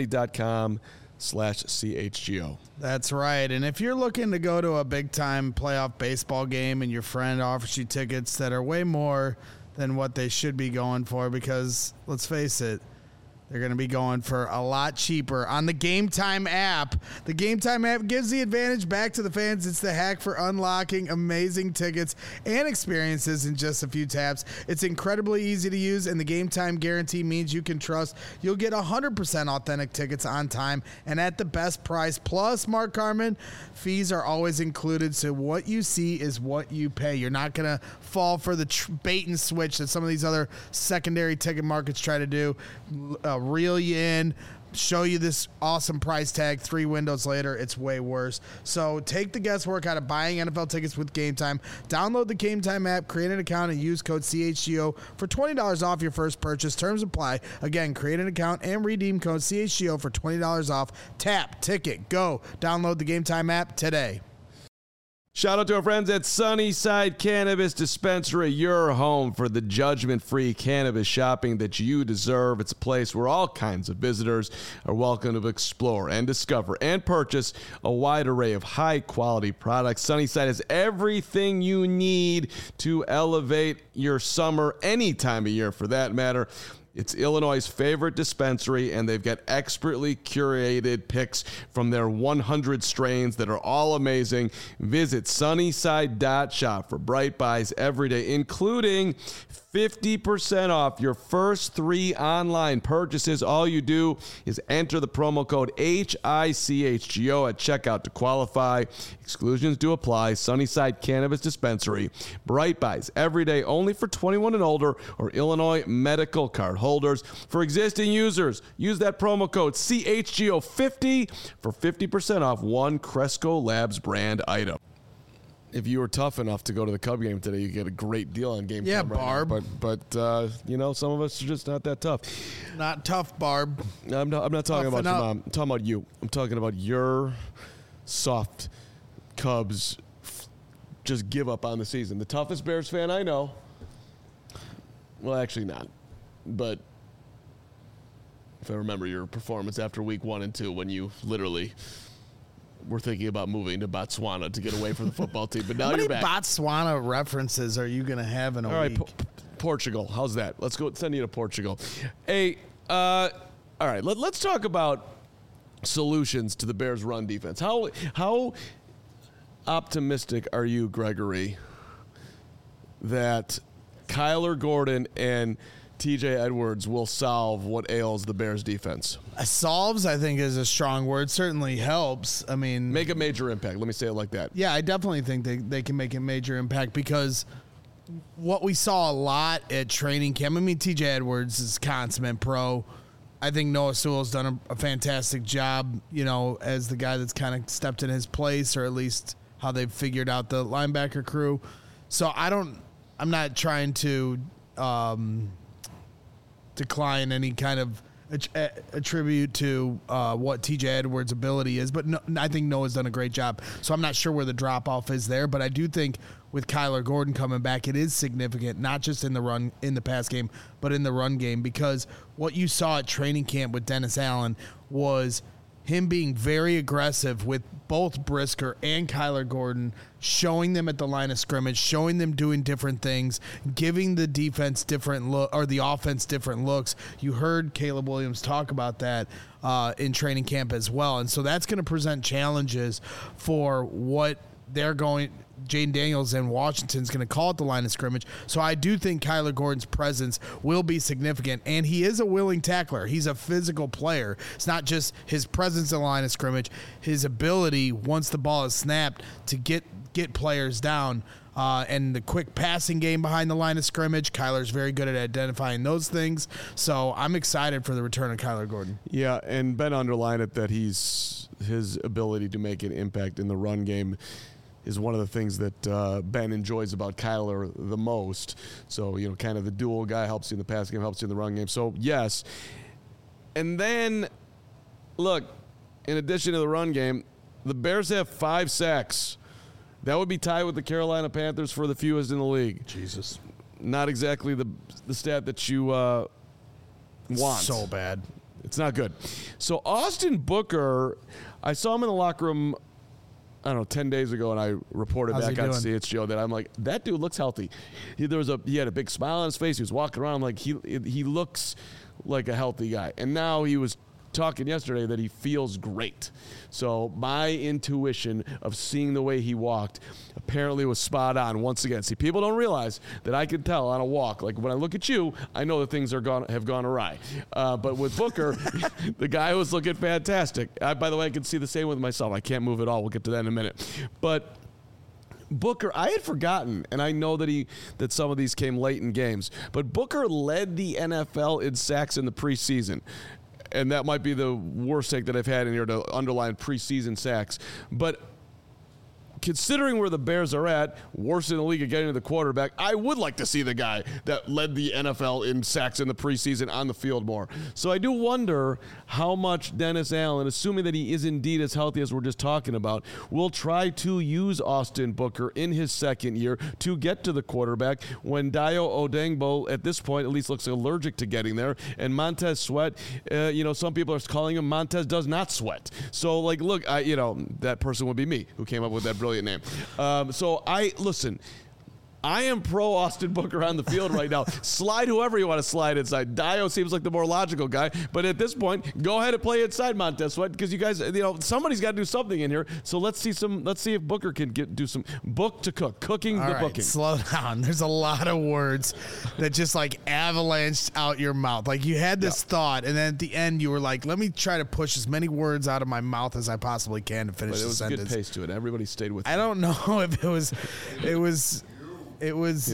monarchmoney.com/CHGO. That's right. And if you're looking to go to a big-time playoff baseball game and your friend offers you tickets that are way more than what they should be going for, because let's face it, they're going to be going for a lot cheaper on the Game Time app. The Game Time app gives the advantage back to the fans. It's the hack for unlocking amazing tickets and experiences in just a few taps. It's incredibly easy to use, and the Game Time guarantee means you can trust you'll get 100% authentic tickets on time and at the best price. Plus, Mark Carman, fees are always included, so what you see is what you pay. You're not going to fall for the bait and switch that some of these other secondary ticket markets try to do. Reel you in, show you this awesome price tag. 3 windows later, it's way worse. So take the guesswork out of buying NFL tickets with Game Time. Download the Game Time app, create an account, and use code CHGO for $20 off your first purchase. Terms apply. Again, create an account and redeem code CHGO for $20 off. Tap, ticket, go. Download the Game Time app today. Shout out to our friends at Sunnyside Cannabis Dispensary, your home for the judgment-free cannabis shopping that you deserve. It's a place where all kinds of visitors are welcome to explore and discover and purchase a wide array of high-quality products. Sunnyside has everything you need to elevate your summer any time of year, for that matter. It's Illinois' favorite dispensary, and they've got expertly curated picks from their 100 strains that are all amazing. Visit Sunnyside.shop for Bright Buys every day, including 50% off your first 3 online purchases. All you do is enter the promo code HICHGO at checkout to qualify. Exclusions do apply. Sunnyside Cannabis Dispensary. Bright Buys every day, only for 21 and older or Illinois medical card holders. For existing users, use that promo code CHGO50 for 50% off one Cresco Labs brand item. If you were tough enough to go to the Cub game today, you get a great deal on Game Yeah, Time right Barb. now. But you know, some of us are just not that tough. Not tough, Barb. I'm not talking about Toughen your up. mom. I'm talking about you. I'm talking about your soft Cubs just give up on the season. The toughest Bears fan I know. Well, actually not. But if I remember your performance after week 1 and 2 when you literally were thinking about moving to Botswana to get away from the football team. But now How many you're back. Botswana references are you going to have in a All right, week? Portugal. How's that? Let's go send you to Portugal. Hey, all right, let's talk about solutions to the Bears' run defense. How optimistic are you, Gregory, that Kyler Gordon and TJ Edwards will solve what ails the Bears defense? Solves, I think, is a strong word. Certainly helps. I mean, Make a major impact. Let me say it like that. yeah, I definitely think they can make a major impact because what we saw a lot at training camp, I mean, TJ Edwards is consummate pro. I think Noah Sewell's done a fantastic job, you know, as the guy that's kind of stepped in his place, or at least how they've figured out the linebacker crew. So I'm not trying to decline any kind of attribute to what TJ Edwards' ability is, but no, I think Noah's done a great job. So I'm not sure where the drop-off is there, but I do think with Kyler Gordon coming back, it is significant, not just in the pass game, but in the run game, because what you saw at training camp with Dennis Allen was him being very aggressive with both Brisker and Kyler Gordon, showing them at the line of scrimmage, showing them doing different things, giving the defense different look or the offense different looks. You heard Caleb Williams talk about that in training camp as well. And so that's going to present challenges for what they're going. Jaden Daniels and Washington's going to call it the line of scrimmage. So I do think Kyler Gordon's presence will be significant, and he is a willing tackler. He's a physical player. It's not just his presence in the line of scrimmage, his ability, once the ball is snapped, to get players down. And the quick passing game behind the line of scrimmage, Kyler's very good at identifying those things. So I'm excited for the return of Kyler Gordon. Yeah, and Ben underlined it that his ability to make an impact in the run game is one of the things that Ben enjoys about Kyler the most. So, you know, kind of the dual guy, helps you in the pass game, helps you in the run game. So, yes. And then, look, in addition to the run game, the Bears have 5 sacks. That would be tied with the Carolina Panthers for the fewest in the league. Jesus. Not exactly the stat that you want. So bad. It's not good. So Austin Booker, I saw him in the locker room, I don't know, 10 days ago, and I reported How's back he on doing? CHGO that I'm like, that dude looks healthy. He had a big smile on his face. He was walking around. I'm like, he looks like a healthy guy. And now he was talking yesterday that he feels great. So my intuition of seeing the way he walked apparently was spot on once again. See, people don't realize that I can tell on a walk. Like when I look at you, I know that things have gone awry. But with Booker, the guy was looking fantastic. By the way, I can see the same with myself. I can't move at all. We'll get to that in a minute. But Booker, I had forgotten, and I know that some of these came late in games, but Booker led the NFL in sacks in the preseason. And that might be the worst take that I've had in here to underline preseason sacks. But considering where the Bears are at, worst in the league at getting to the quarterback, I would like to see the guy that led the NFL in sacks in the preseason on the field more. So I do wonder how much Dennis Allen, assuming that he is indeed as healthy as we're just talking about, will try to use Austin Booker in his second year to get to the quarterback when Dayo Odeyingbo at this point at least looks allergic to getting there, and Montez Sweat, some people are calling him Montez does not sweat. So look, that person would be me who came up with that brilliant name. I am pro Austin Booker on the field right now. Slide whoever you want to slide inside. Dayo seems like the more logical guy, but at this point, go ahead and play inside Montez Sweat because you guys, somebody's got to do something in here. So let's see if Booker can do some book to cook, cooking All the right, booking. Slow down. There's a lot of words that just avalanched out your mouth. Like you had this thought, and then at the end you were like, "Let me try to push as many words out of my mouth as I possibly can to finish the sentence." But it was a good pace to it. Everybody stayed with. I don't know if it was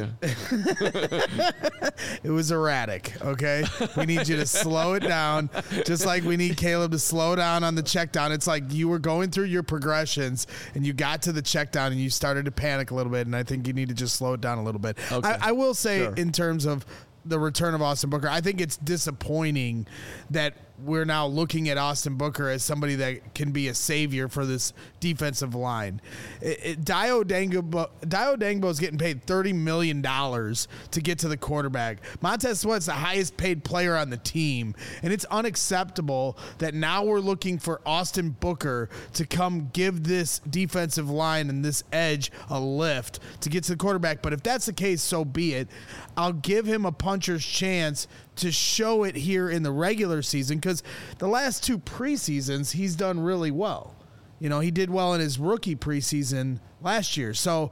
erratic, okay? We need you to slow it down, just like we need Caleb to slow down on the check down. It's like you were going through your progressions, and you got to the check down, and you started to panic a little bit, and I think you need to just slow it down a little bit. Okay. I will say, Sure. in terms of the return of Austin Booker, I think it's disappointing that we're now looking at Austin Booker as somebody that can be a savior for this defensive line. Dayo Odeyingbo is getting paid $30 million to get to the quarterback. Montez Sweat's the highest paid player on the team, and it's unacceptable that now we're looking for Austin Booker to come give this defensive line and this edge a lift to get to the quarterback. But if that's the case, so be it. I'll give him a puncher's chance to show it here in the regular season, because the last two preseasons he's done really well. He did well in his rookie preseason last year. So,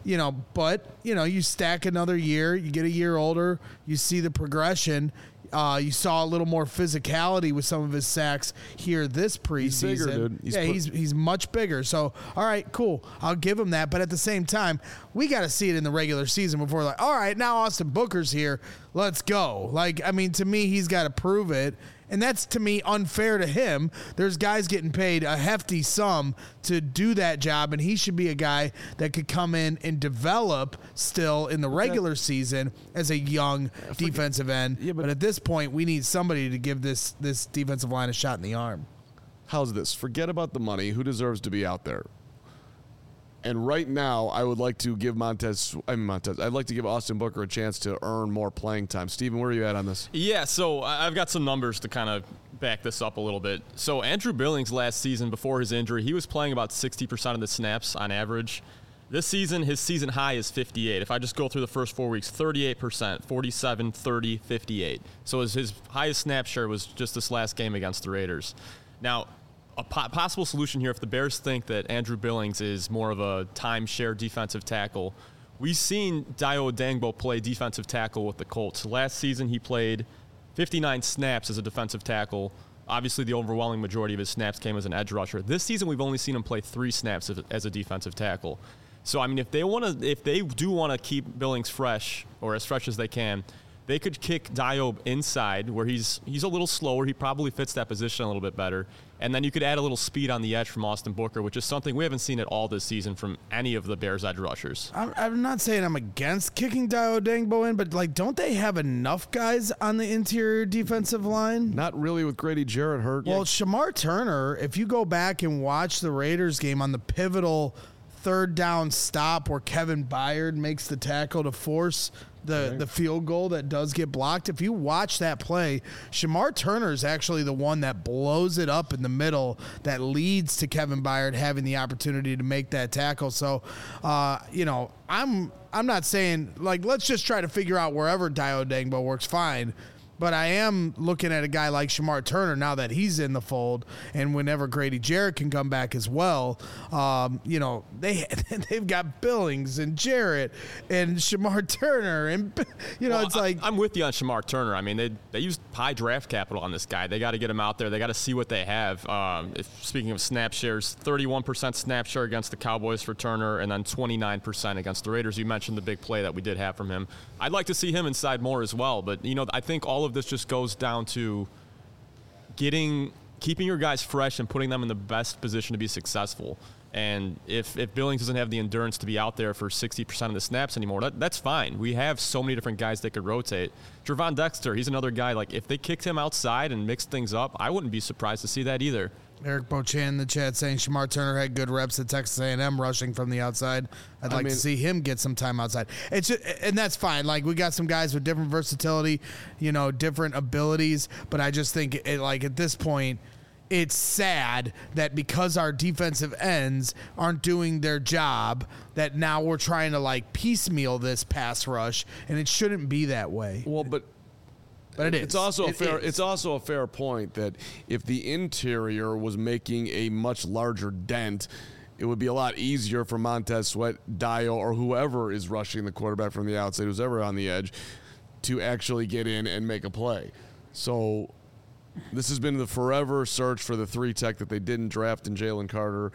you stack another year, you get a year older, you see the progression. You saw a little more physicality with some of his sacks here this preseason. He's bigger, dude. He's much bigger. So, all right, cool. I'll give him that. But at the same time, we got to see it in the regular season before we're like, all right, now Austin Booker's here. Let's go. To me, he's got to prove it. And that's, to me, unfair to him. There's guys getting paid a hefty sum to do that job, and he should be a guy that could come in and develop still in the regular season as a young defensive end. Yeah, but at this point, we need somebody to give this defensive line a shot in the arm. How's this? Forget about the money. Who deserves to be out there? And right now, I would like to give I'd like to give Austin Booker a chance to earn more playing time. Steven, where are you at on this? Yeah, so I've got some numbers to kind of back this up a little bit. So Andrew Billings last season, before his injury, he was playing about 60% of the snaps on average. This season, his season high is 58. If I just go through the first 4 weeks, 38%, 47, 30, 58. So his highest snap share was just this last game against the Raiders. Now, a possible solution here, if the Bears think that Andrew Billings is more of a timeshare defensive tackle, we've seen Dayo Odeyingbo play defensive tackle with the Colts. Last season, he played 59 snaps as a defensive tackle. Obviously, the overwhelming majority of his snaps came as an edge rusher. This season, we've only seen him play 3 snaps as a defensive tackle. So, I mean, if they do want to keep Billings fresh, or as fresh as they can, they could kick Dayo inside, where he's a little slower. He probably fits that position a little bit better. And then you could add a little speed on the edge from Austin Booker, which is something we haven't seen at all this season from any of the Bears edge rushers. I'm not saying I'm against kicking Dayo Odeyingbo in, but don't they have enough guys on the interior defensive line? Not really with Grady Jarrett hurt. Well, Shamar Turner, if you go back and watch the Raiders game on the pivotal third down stop where Kevin Byard makes the tackle to force the field goal that does get blocked. If you watch that play, Shamar Turner is actually the one that blows it up in the middle that leads to Kevin Byard having the opportunity to make that tackle. So, I'm not saying, let's just try to figure out wherever Dayo Odeyingbo works fine. But I am looking at a guy like Shamar Turner now that he's in the fold, and whenever Grady Jarrett can come back as well, they've got Billings and Jarrett and Shamar Turner, and it's like I'm with you on Shamar Turner. I mean, they used high draft capital on this guy. They got to get him out there. They got to see what they have. Speaking of snap shares, 31% snap share against the Cowboys for Turner, and then 29% against the Raiders. You mentioned the big play that we did have from him. I'd like to see him inside more as well, but I think all of this just goes down to keeping your guys fresh and putting them in the best position to be successful. And if Billings doesn't have the endurance to be out there for 60% of the snaps anymore, that's fine. We have so many different guys that could rotate. Trevon Dexter, he's another guy. Like, if they kicked him outside and mixed things up, I wouldn't be surprised to see that either. Eric Bochan in the chat saying Shamar Turner had good reps at Texas A&M rushing from the outside. I'd like to see him get some time outside. It's just, and that's fine. Like, we got some guys with different versatility, different abilities. But I just think, at this point, it's sad that because our defensive ends aren't doing their job, that now we're trying to piecemeal this pass rush, and it shouldn't be that way. Well, but it is. It's also a fair point that if the interior was making a much larger dent, it would be a lot easier for Montez Sweat, Dio, or whoever is rushing the quarterback from the outside, who's ever on the edge, to actually get in and make a play. So this has been the forever search for the 3-tech that they didn't draft in Jalen Carter.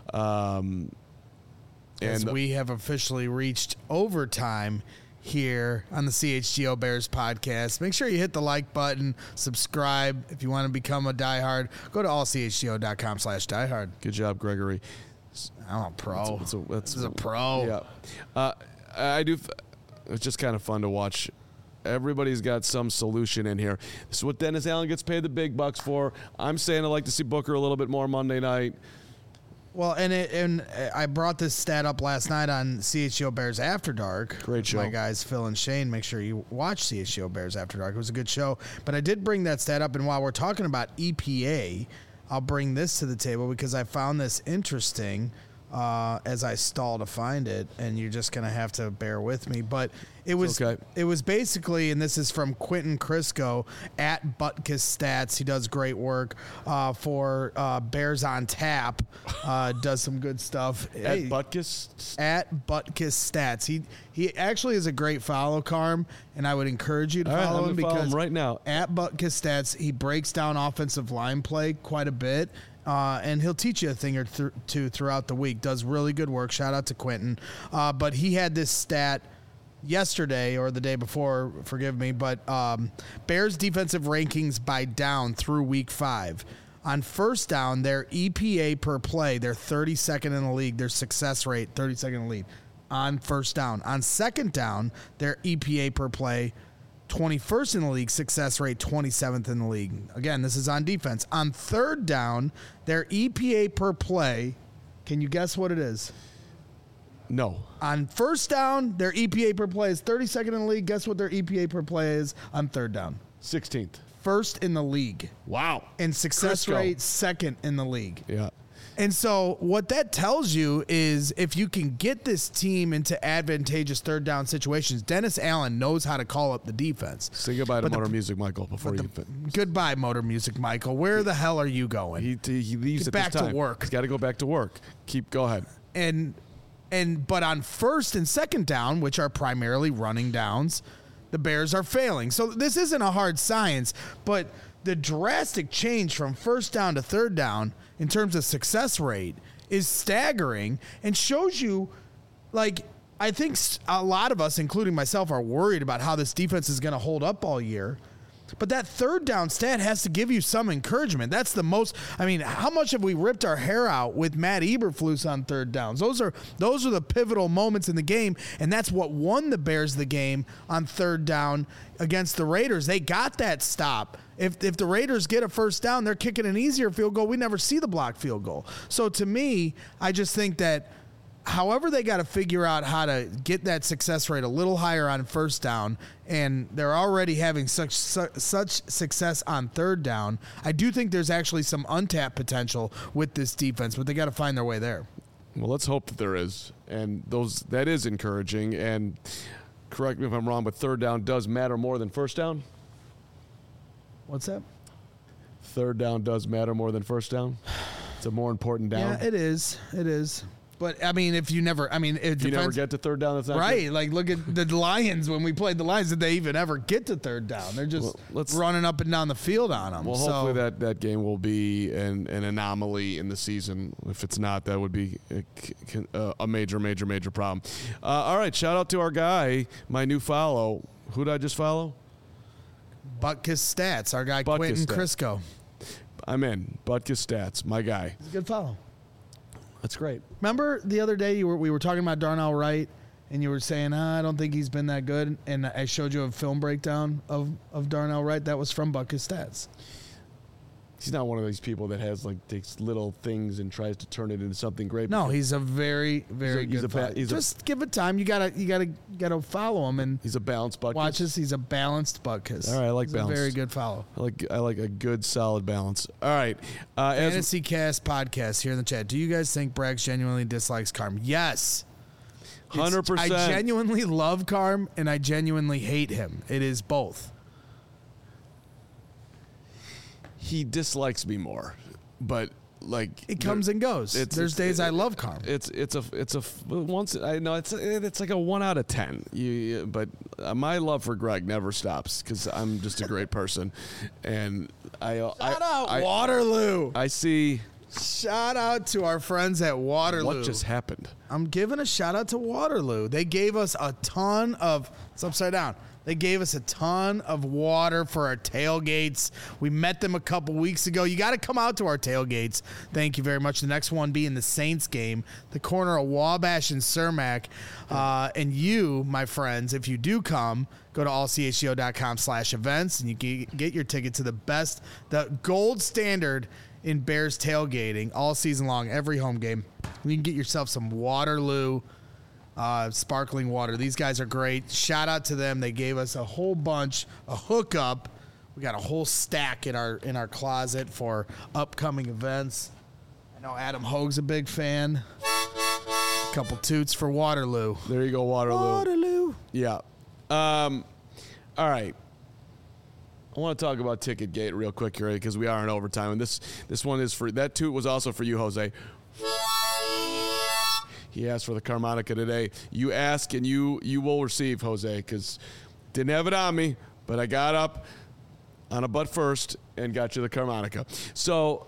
As we have officially reached overtime here on the CHGO Bears podcast. Make sure you hit the like button, subscribe. If you want to become a diehard, go to allchgo.com/diehard. Good job, Gregory. I'm a pro. This is a pro. Yeah. I do. It's just kind of fun to watch. Everybody's got some solution in here. This is what Dennis Allen gets paid the big bucks for. I'm saying I'd like to see Booker a little bit more Monday night. Well, and I brought this stat up last night on CHGO Bears After Dark. Great show. My guys, Phil and Shane, make sure you watch CHGO Bears After Dark. It was a good show. But I did bring that stat up, and while we're talking about EPA, I'll bring this to the table because I found this interesting as I stall to find it, and you're just going to have to bear with me. But it was basically, and this is from Quentin Crisco at Butkus Stats. He does great work for Bears on Tap. Does some good stuff. At Butkus? At Butkus Stats. He actually is a great follow, Carm, and I would encourage you to follow him because right now. At Butkus Stats, he breaks down offensive line play quite a bit. And he'll teach you a thing or two throughout the week. Does really good work. Shout out to Quentin. But he had this stat yesterday or the day before, forgive me, but Bears defensive rankings by down through week 5. On first down, their EPA per play, they're 32nd in the league. Their success rate, 32nd in the league on first down. On second down, their EPA per play, 21st in the league, success rate 27th in the league. Again, this is on defense. On third down, their EPA per play, can you guess what it is? No. On first down, their EPA per play is 32nd in the league. Guess what their EPA per play is on third down? 16th. First in the league. Wow. And success rate second in the league. Yeah. And so what that tells you is if you can get this team into advantageous third down situations, Dennis Allen knows how to call up the defense. Say goodbye to Motor Music Michael before you goodbye, Motor Music Michael. Where the hell are you going? He leaves Get at back this time. to work. He's got to go back to work. Go ahead. But on first and second down, which are primarily running downs, the Bears are failing. So this isn't a hard science, but the drastic change from first down to third down in terms of success rate is staggering and shows you, I think a lot of us, including myself, are worried about how this defense is going to hold up all year. But that third down stat has to give you some encouragement. That's the most. I mean, how much have we ripped our hair out with Matt Eberflus on third downs? Those are the pivotal moments in the game, and that's what won the Bears the game on third down against the Raiders. They got that stop. If the Raiders get a first down, they're kicking an easier field goal. We never see the blocked field goal. So to me, I just think that however they got to figure out how to get that success rate a little higher on first down, and they're already having such success on third down, I do think there's actually some untapped potential with this defense, but they got to find their way there. Well, let's hope that there is, and that is encouraging. And correct me if I'm wrong, but third down does matter more than first down? What's that? Third down does matter more than first down? It's a more important down? Yeah, it is. It is. But, I mean, if you never get to third down, that's not right. good. Like, look at the Lions. When we played the Lions, did they even ever get to third down? They're just running up and down the field on them. Well, hopefully that game will be an anomaly in the season. If it's not, that would be a major, major, major problem. All right, shout out to our guy, my new follow. Who did I just follow? Butkus Stats, our guy Quentin Crisco. I'm in. Butkus Stats, my guy. It's a good follow. That's great. Remember the other day we were talking about Darnell Wright, and you were saying, I don't think he's been that good, and I showed you a film breakdown of Darnell Wright. That was from Buckus Stats. He's not one of these people that takes little things and tries to turn it into something great. No, he's a very, very good follower. Just give it time. You gotta follow him, and he's a balanced Buckus. Watch this. He's a balanced Buckus. All right, I like he's balance. A very good follow. I like a good solid balance. All right, Fantasy Cast podcast here in the chat. Do you guys think Braggs genuinely dislikes Carm? Yes, 100%. I genuinely love Carm, and I genuinely hate him. It is both. He dislikes me more, but it comes and goes. There's days I love Carm. It's once I know it's like a 1 out of 10. But my love for Greg never stops because I'm just a great person, and Shout out Waterloo. I see. Shout out to our friends at Waterloo. What just happened? I'm giving a shout out to Waterloo. They gave us a ton of. It's upside down. They gave us a ton of water for our tailgates. We met them a couple weeks ago. You got to come out to our tailgates. Thank you very much. The next one being the Saints game, the corner of Wabash and Cermak. And you, my friends, if you do come, go to allchgo.com/events, and you get your ticket to the gold standard in Bears tailgating all season long, every home game. You can get yourself some Waterloo sparkling water. These guys are great. Shout out to them. They gave us a whole bunch, a hookup. We got a whole stack in our closet for upcoming events. I know Adam Hogue's a big fan. A couple toots for Waterloo. There you go, Waterloo. Waterloo. Yeah. All right. I want to talk about Ticketgate real quick here because we are in overtime, and this one is for that toot was also for you, Jose. He asked for the Carmonica today. You ask and you will receive, Jose, because didn't have it on me, but I got up on a butt first and got you the Carmonica. So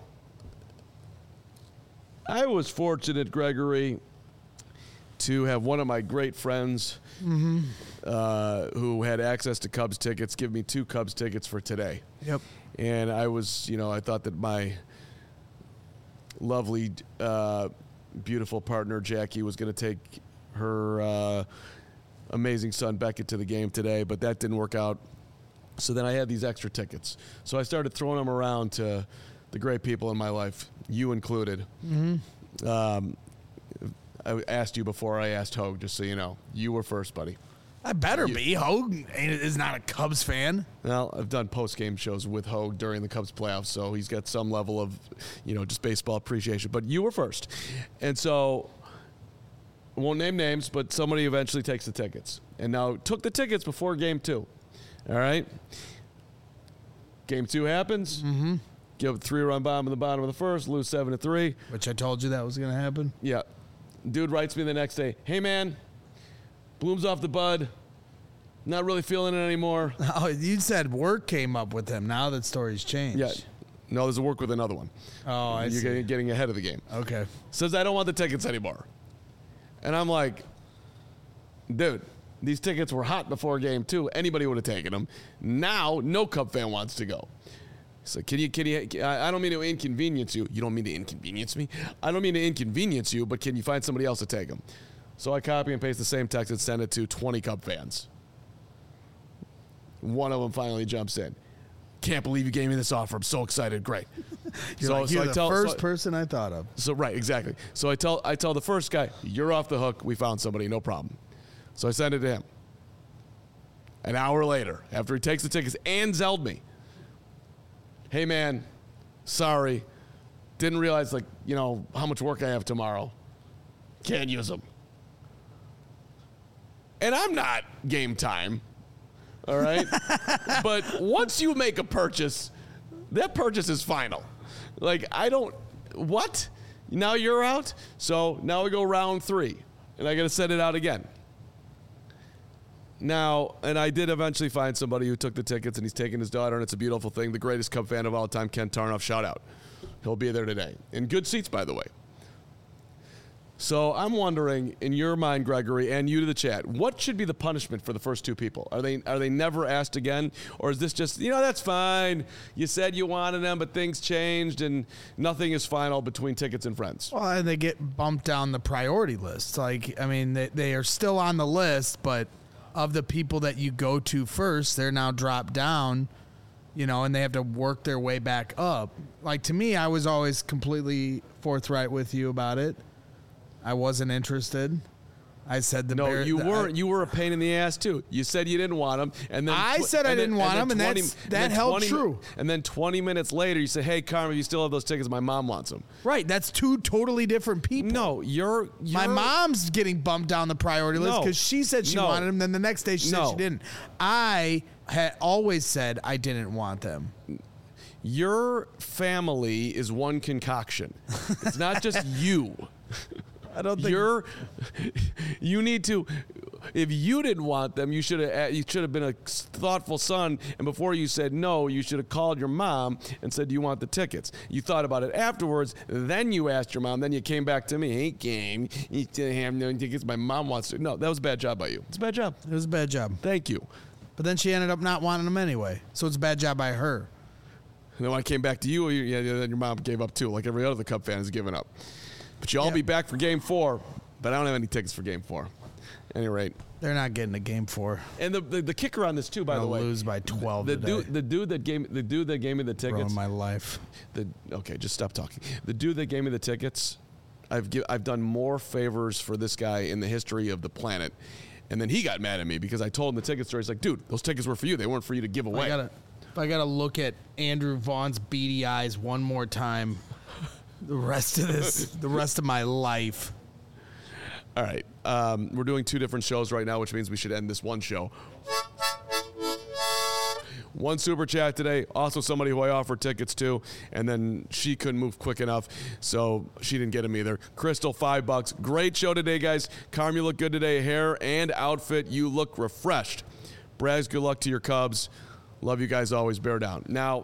I was fortunate, Gregory, to have one of my great friends who had access to Cubs tickets give me 2 Cubs tickets for today. Yep. And I was, I thought that my lovely beautiful partner Jackie was going to take her amazing son Beckett to the game today, but that didn't work out. So then I had these extra tickets. So I started throwing them around to the great people in my life, you included. I asked you before I asked Hogue, just so you know. You were first, buddy. I better be. Hogue is not a Cubs fan. Well, I've done post-game shows with Hogue during the Cubs playoffs, so he's got some level of, just baseball appreciation. But you were first. And so, I won't name names, but somebody eventually takes the tickets. And now took the tickets before Game 2. All right? Game 2 happens. Mm-hmm. Give a 3-run bomb in the bottom of the first, lose 7-3. Which I told you that was going to happen. Yeah. Dude writes me the next day, hey, man, Bloom's off the bud. Not really feeling it anymore. Oh, you said work came up with him. Now that story's changed. Yeah. No, there's a work with another one. Oh, I see. You're getting ahead of the game. Okay. Says, I don't want the tickets anymore. And I'm like, dude, these tickets were hot before Game 2. Anybody would have taken them. Now, no Cub fan wants to go. So can you, I don't mean to inconvenience you. You don't mean to inconvenience me? I don't mean to inconvenience you, but can you find somebody else to take them? So I copy and paste the same text and send it to 20 Cub fans. One of them finally jumps in. Can't believe you gave me this offer. I'm so excited. Great. You're the first person I thought of. So right, exactly. So I tell the first guy, you're off the hook. We found somebody, no problem. So I send it to him. An hour later, after he takes the tickets and Zelled me, hey man, sorry, didn't realize how much work I have tomorrow. Can't use them. And I'm not Game Time. All right? But once you make a purchase, that purchase is final. What? Now you're out? So now we go round 3, and I got to send it out again. Now, and I did eventually find somebody who took the tickets, and he's taking his daughter, and it's a beautiful thing. The greatest Cub fan of all time, Ken Tarnoff, shout out. He'll be there today. In good seats, by the way. So I'm wondering, in your mind, Gregory, and you to the chat, what should be the punishment for the first two people? Are they never asked again, or is this just, that's fine? You said you wanted them, but things changed, and nothing is final between tickets and friends. Well, and they get bumped down the priority list. They are still on the list, but of the people that you go to first, they're now dropped down, and they have to work their way back up. Like, to me, I was always completely forthright with you about it. I wasn't interested. I said you weren't. You were a pain in the ass too. You said you didn't want them, and then I said I didn't want them, and that held true. And then 20 minutes later, you say, "Hey, Carmen, you still have those tickets? My mom wants them." Right. That's two totally different people. No, you're my mom's getting bumped down the priority list because she said she wanted them. Then the next day she said she didn't. I had always said I didn't want them. Your family is one concoction. It's not just you. I don't think you need to. If you didn't want them, you should have been a thoughtful son. And before you said no, you should have called your mom and said, "Do you want the tickets?" You thought about it afterwards. Then you asked your mom. Then you came back to me. "Hey, game, you still have no tickets? My mom wants to." No, that was a bad job by you. It's a bad job. It was a bad job. Thank you. But then she ended up not wanting them anyway. So it's a bad job by her. And then when I came back to you, then your mom gave up too, like every other Cub fan has given up. But you'll all be back for Game 4, but I don't have any tickets for Game 4. At any rate. They're not getting to Game 4. And the kicker on this, too, by the way. Lose by 12 the dude that gave me the tickets. Ruined my life. Okay, just stop talking. The dude that gave me the tickets, I've done more favors for this guy in the history of the planet. And then he got mad at me because I told him the ticket story. He's like, "Dude, those tickets were for you. They weren't for you to give away." If I got to look at Andrew Vaughn's beady eyes one more time, the rest of my life. All right. We're doing 2 different shows right now, which means we should end this one show. One super chat today. Also somebody who I offered tickets to, and then she couldn't move quick enough, so she didn't get them either. Crystal, $5. Great show today, guys. Carm, you look good today. Hair and outfit, you look refreshed. Braz, good luck to your Cubs. Love you guys always. Bear down. Now,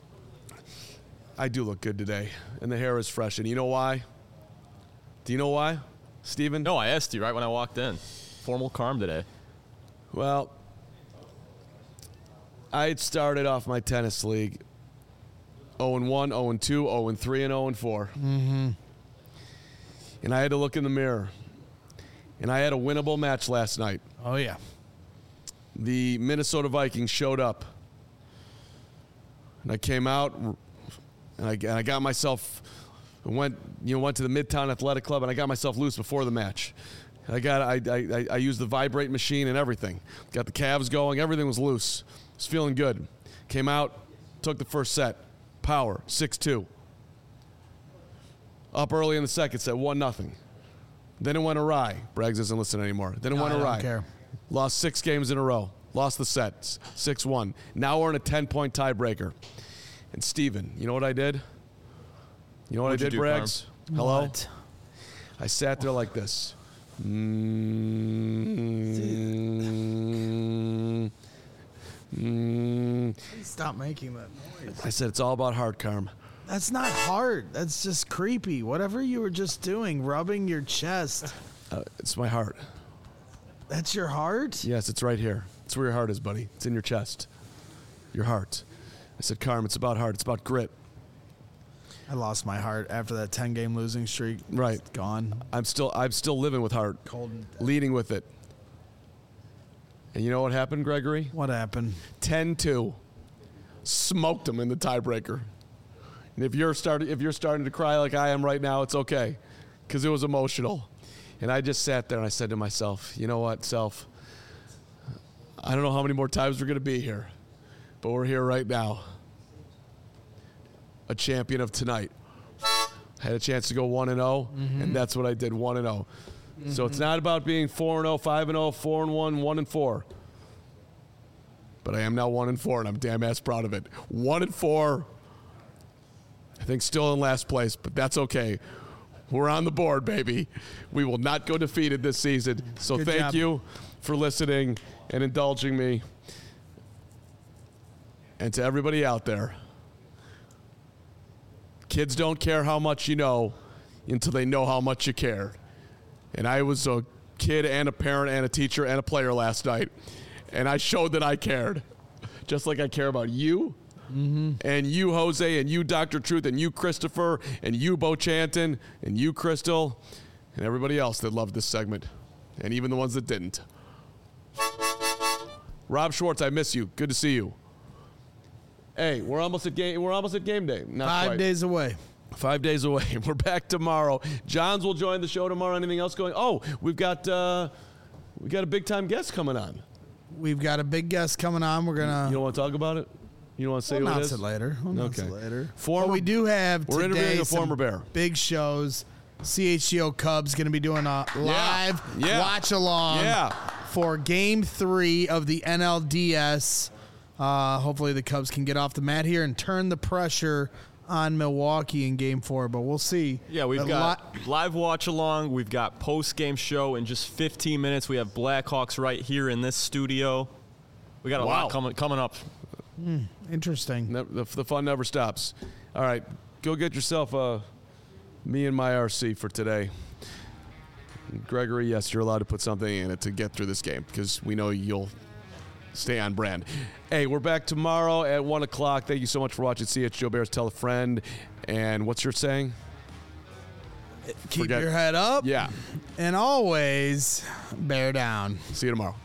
I do look good today, and the hair is fresh. And you know why? Do you know why, Steven? No, I asked you right when I walked in. Formal Carm today. Well, I had started off my tennis league 0-1, 0-2, 0-3, and 0-4. Mm-hmm. And I had to look in the mirror. And I had a winnable match last night. Oh, yeah. The Minnesota Vikings showed up. And I came out, and I got myself, went to the Midtown Athletic Club, and I got myself loose before the match. I used the vibrate machine and everything. Got the calves going. Everything was loose. Was feeling good. Came out, took the first set. Power, 6-2. Up early in the second set, 1-0. Then it went awry. Braggs doesn't listen anymore. Then it went awry. I don't care. Lost 6 games in a row. Lost the set, 6-1. Now we're in a 10-point tiebreaker. And Steven, you know what I did? You know what I did, Braggs? Hello? What? I sat there like this. Stop making that noise. I said, it's all about heart, Carm. That's not hard. That's just creepy. Whatever you were just doing, rubbing your chest. It's my heart. That's your heart? Yes, it's right here. It's where your heart is, buddy. It's in your chest. Your heart. I said, Carm, it's about heart. It's about grit. I lost my heart after that 10-game losing streak. Right. It's gone. I'm still living with heart. Cold and dead. Leading with it. And you know what happened, Gregory? What happened? 10-2. Smoked him in the tiebreaker. And if you're starting to cry like I am right now, it's okay. Because it was emotional. And I just sat there and I said to myself, you know what, self? I don't know how many more times we're going to be here. But we're here right now. A champion of tonight. Had a chance to go 1-0, and that's what I did, 1-0. So it's not about being 4-0, 5-0, 4-1, 1-4. But I am now 1-4, and I'm damn ass proud of it. 1-4. I think still in last place, but that's okay. We're on the board, baby. We will not go defeated this season. So Good thank job. you for listening and indulging me. And to everybody out there, kids don't care how much you know until they know how much you care. And I was a kid and a parent and a teacher and a player last night. And I showed that I cared. Just like I care about you. And you, Jose, and you, Dr. Truth, and you, Christopher, and you, Bo Chanton, and you, Crystal, and everybody else that loved this segment, and even the ones that didn't. Rob Schwartz, I miss you. Good to see you. Hey, we're almost at game day. Not 5 days away. 5 days away. We're back tomorrow. Johns will join the show tomorrow. Anything else going? Oh, we've got a big time guest coming on. We've got a big guest coming on. We're gonna. You don't want to talk about it? You don't want to say We'll what it announce is? it later. We'll announce it later. Former, but we do have we're today interviewing a some former Bear. big shows. CHGO Cubs going to be doing a live watch along for Game 3 of the NLDS. Hopefully the Cubs can get off the mat here and turn the pressure on Milwaukee in Game 4, but we'll see. Yeah, we've got live watch along. We've got post-game show in just 15 minutes. We have Blackhawks right here in this studio. We got a lot coming up. Interesting. The fun never stops. All right, go get yourself me and my RC for today. Gregory, yes, you're allowed to put something in it to get through this game because we know you'll stay on brand. Hey, we're back tomorrow at 1 o'clock. Thank you so much for watching CHGO Bears. Tell a friend. And what's your saying? Keep your head up. Yeah. And always bear down. See you tomorrow.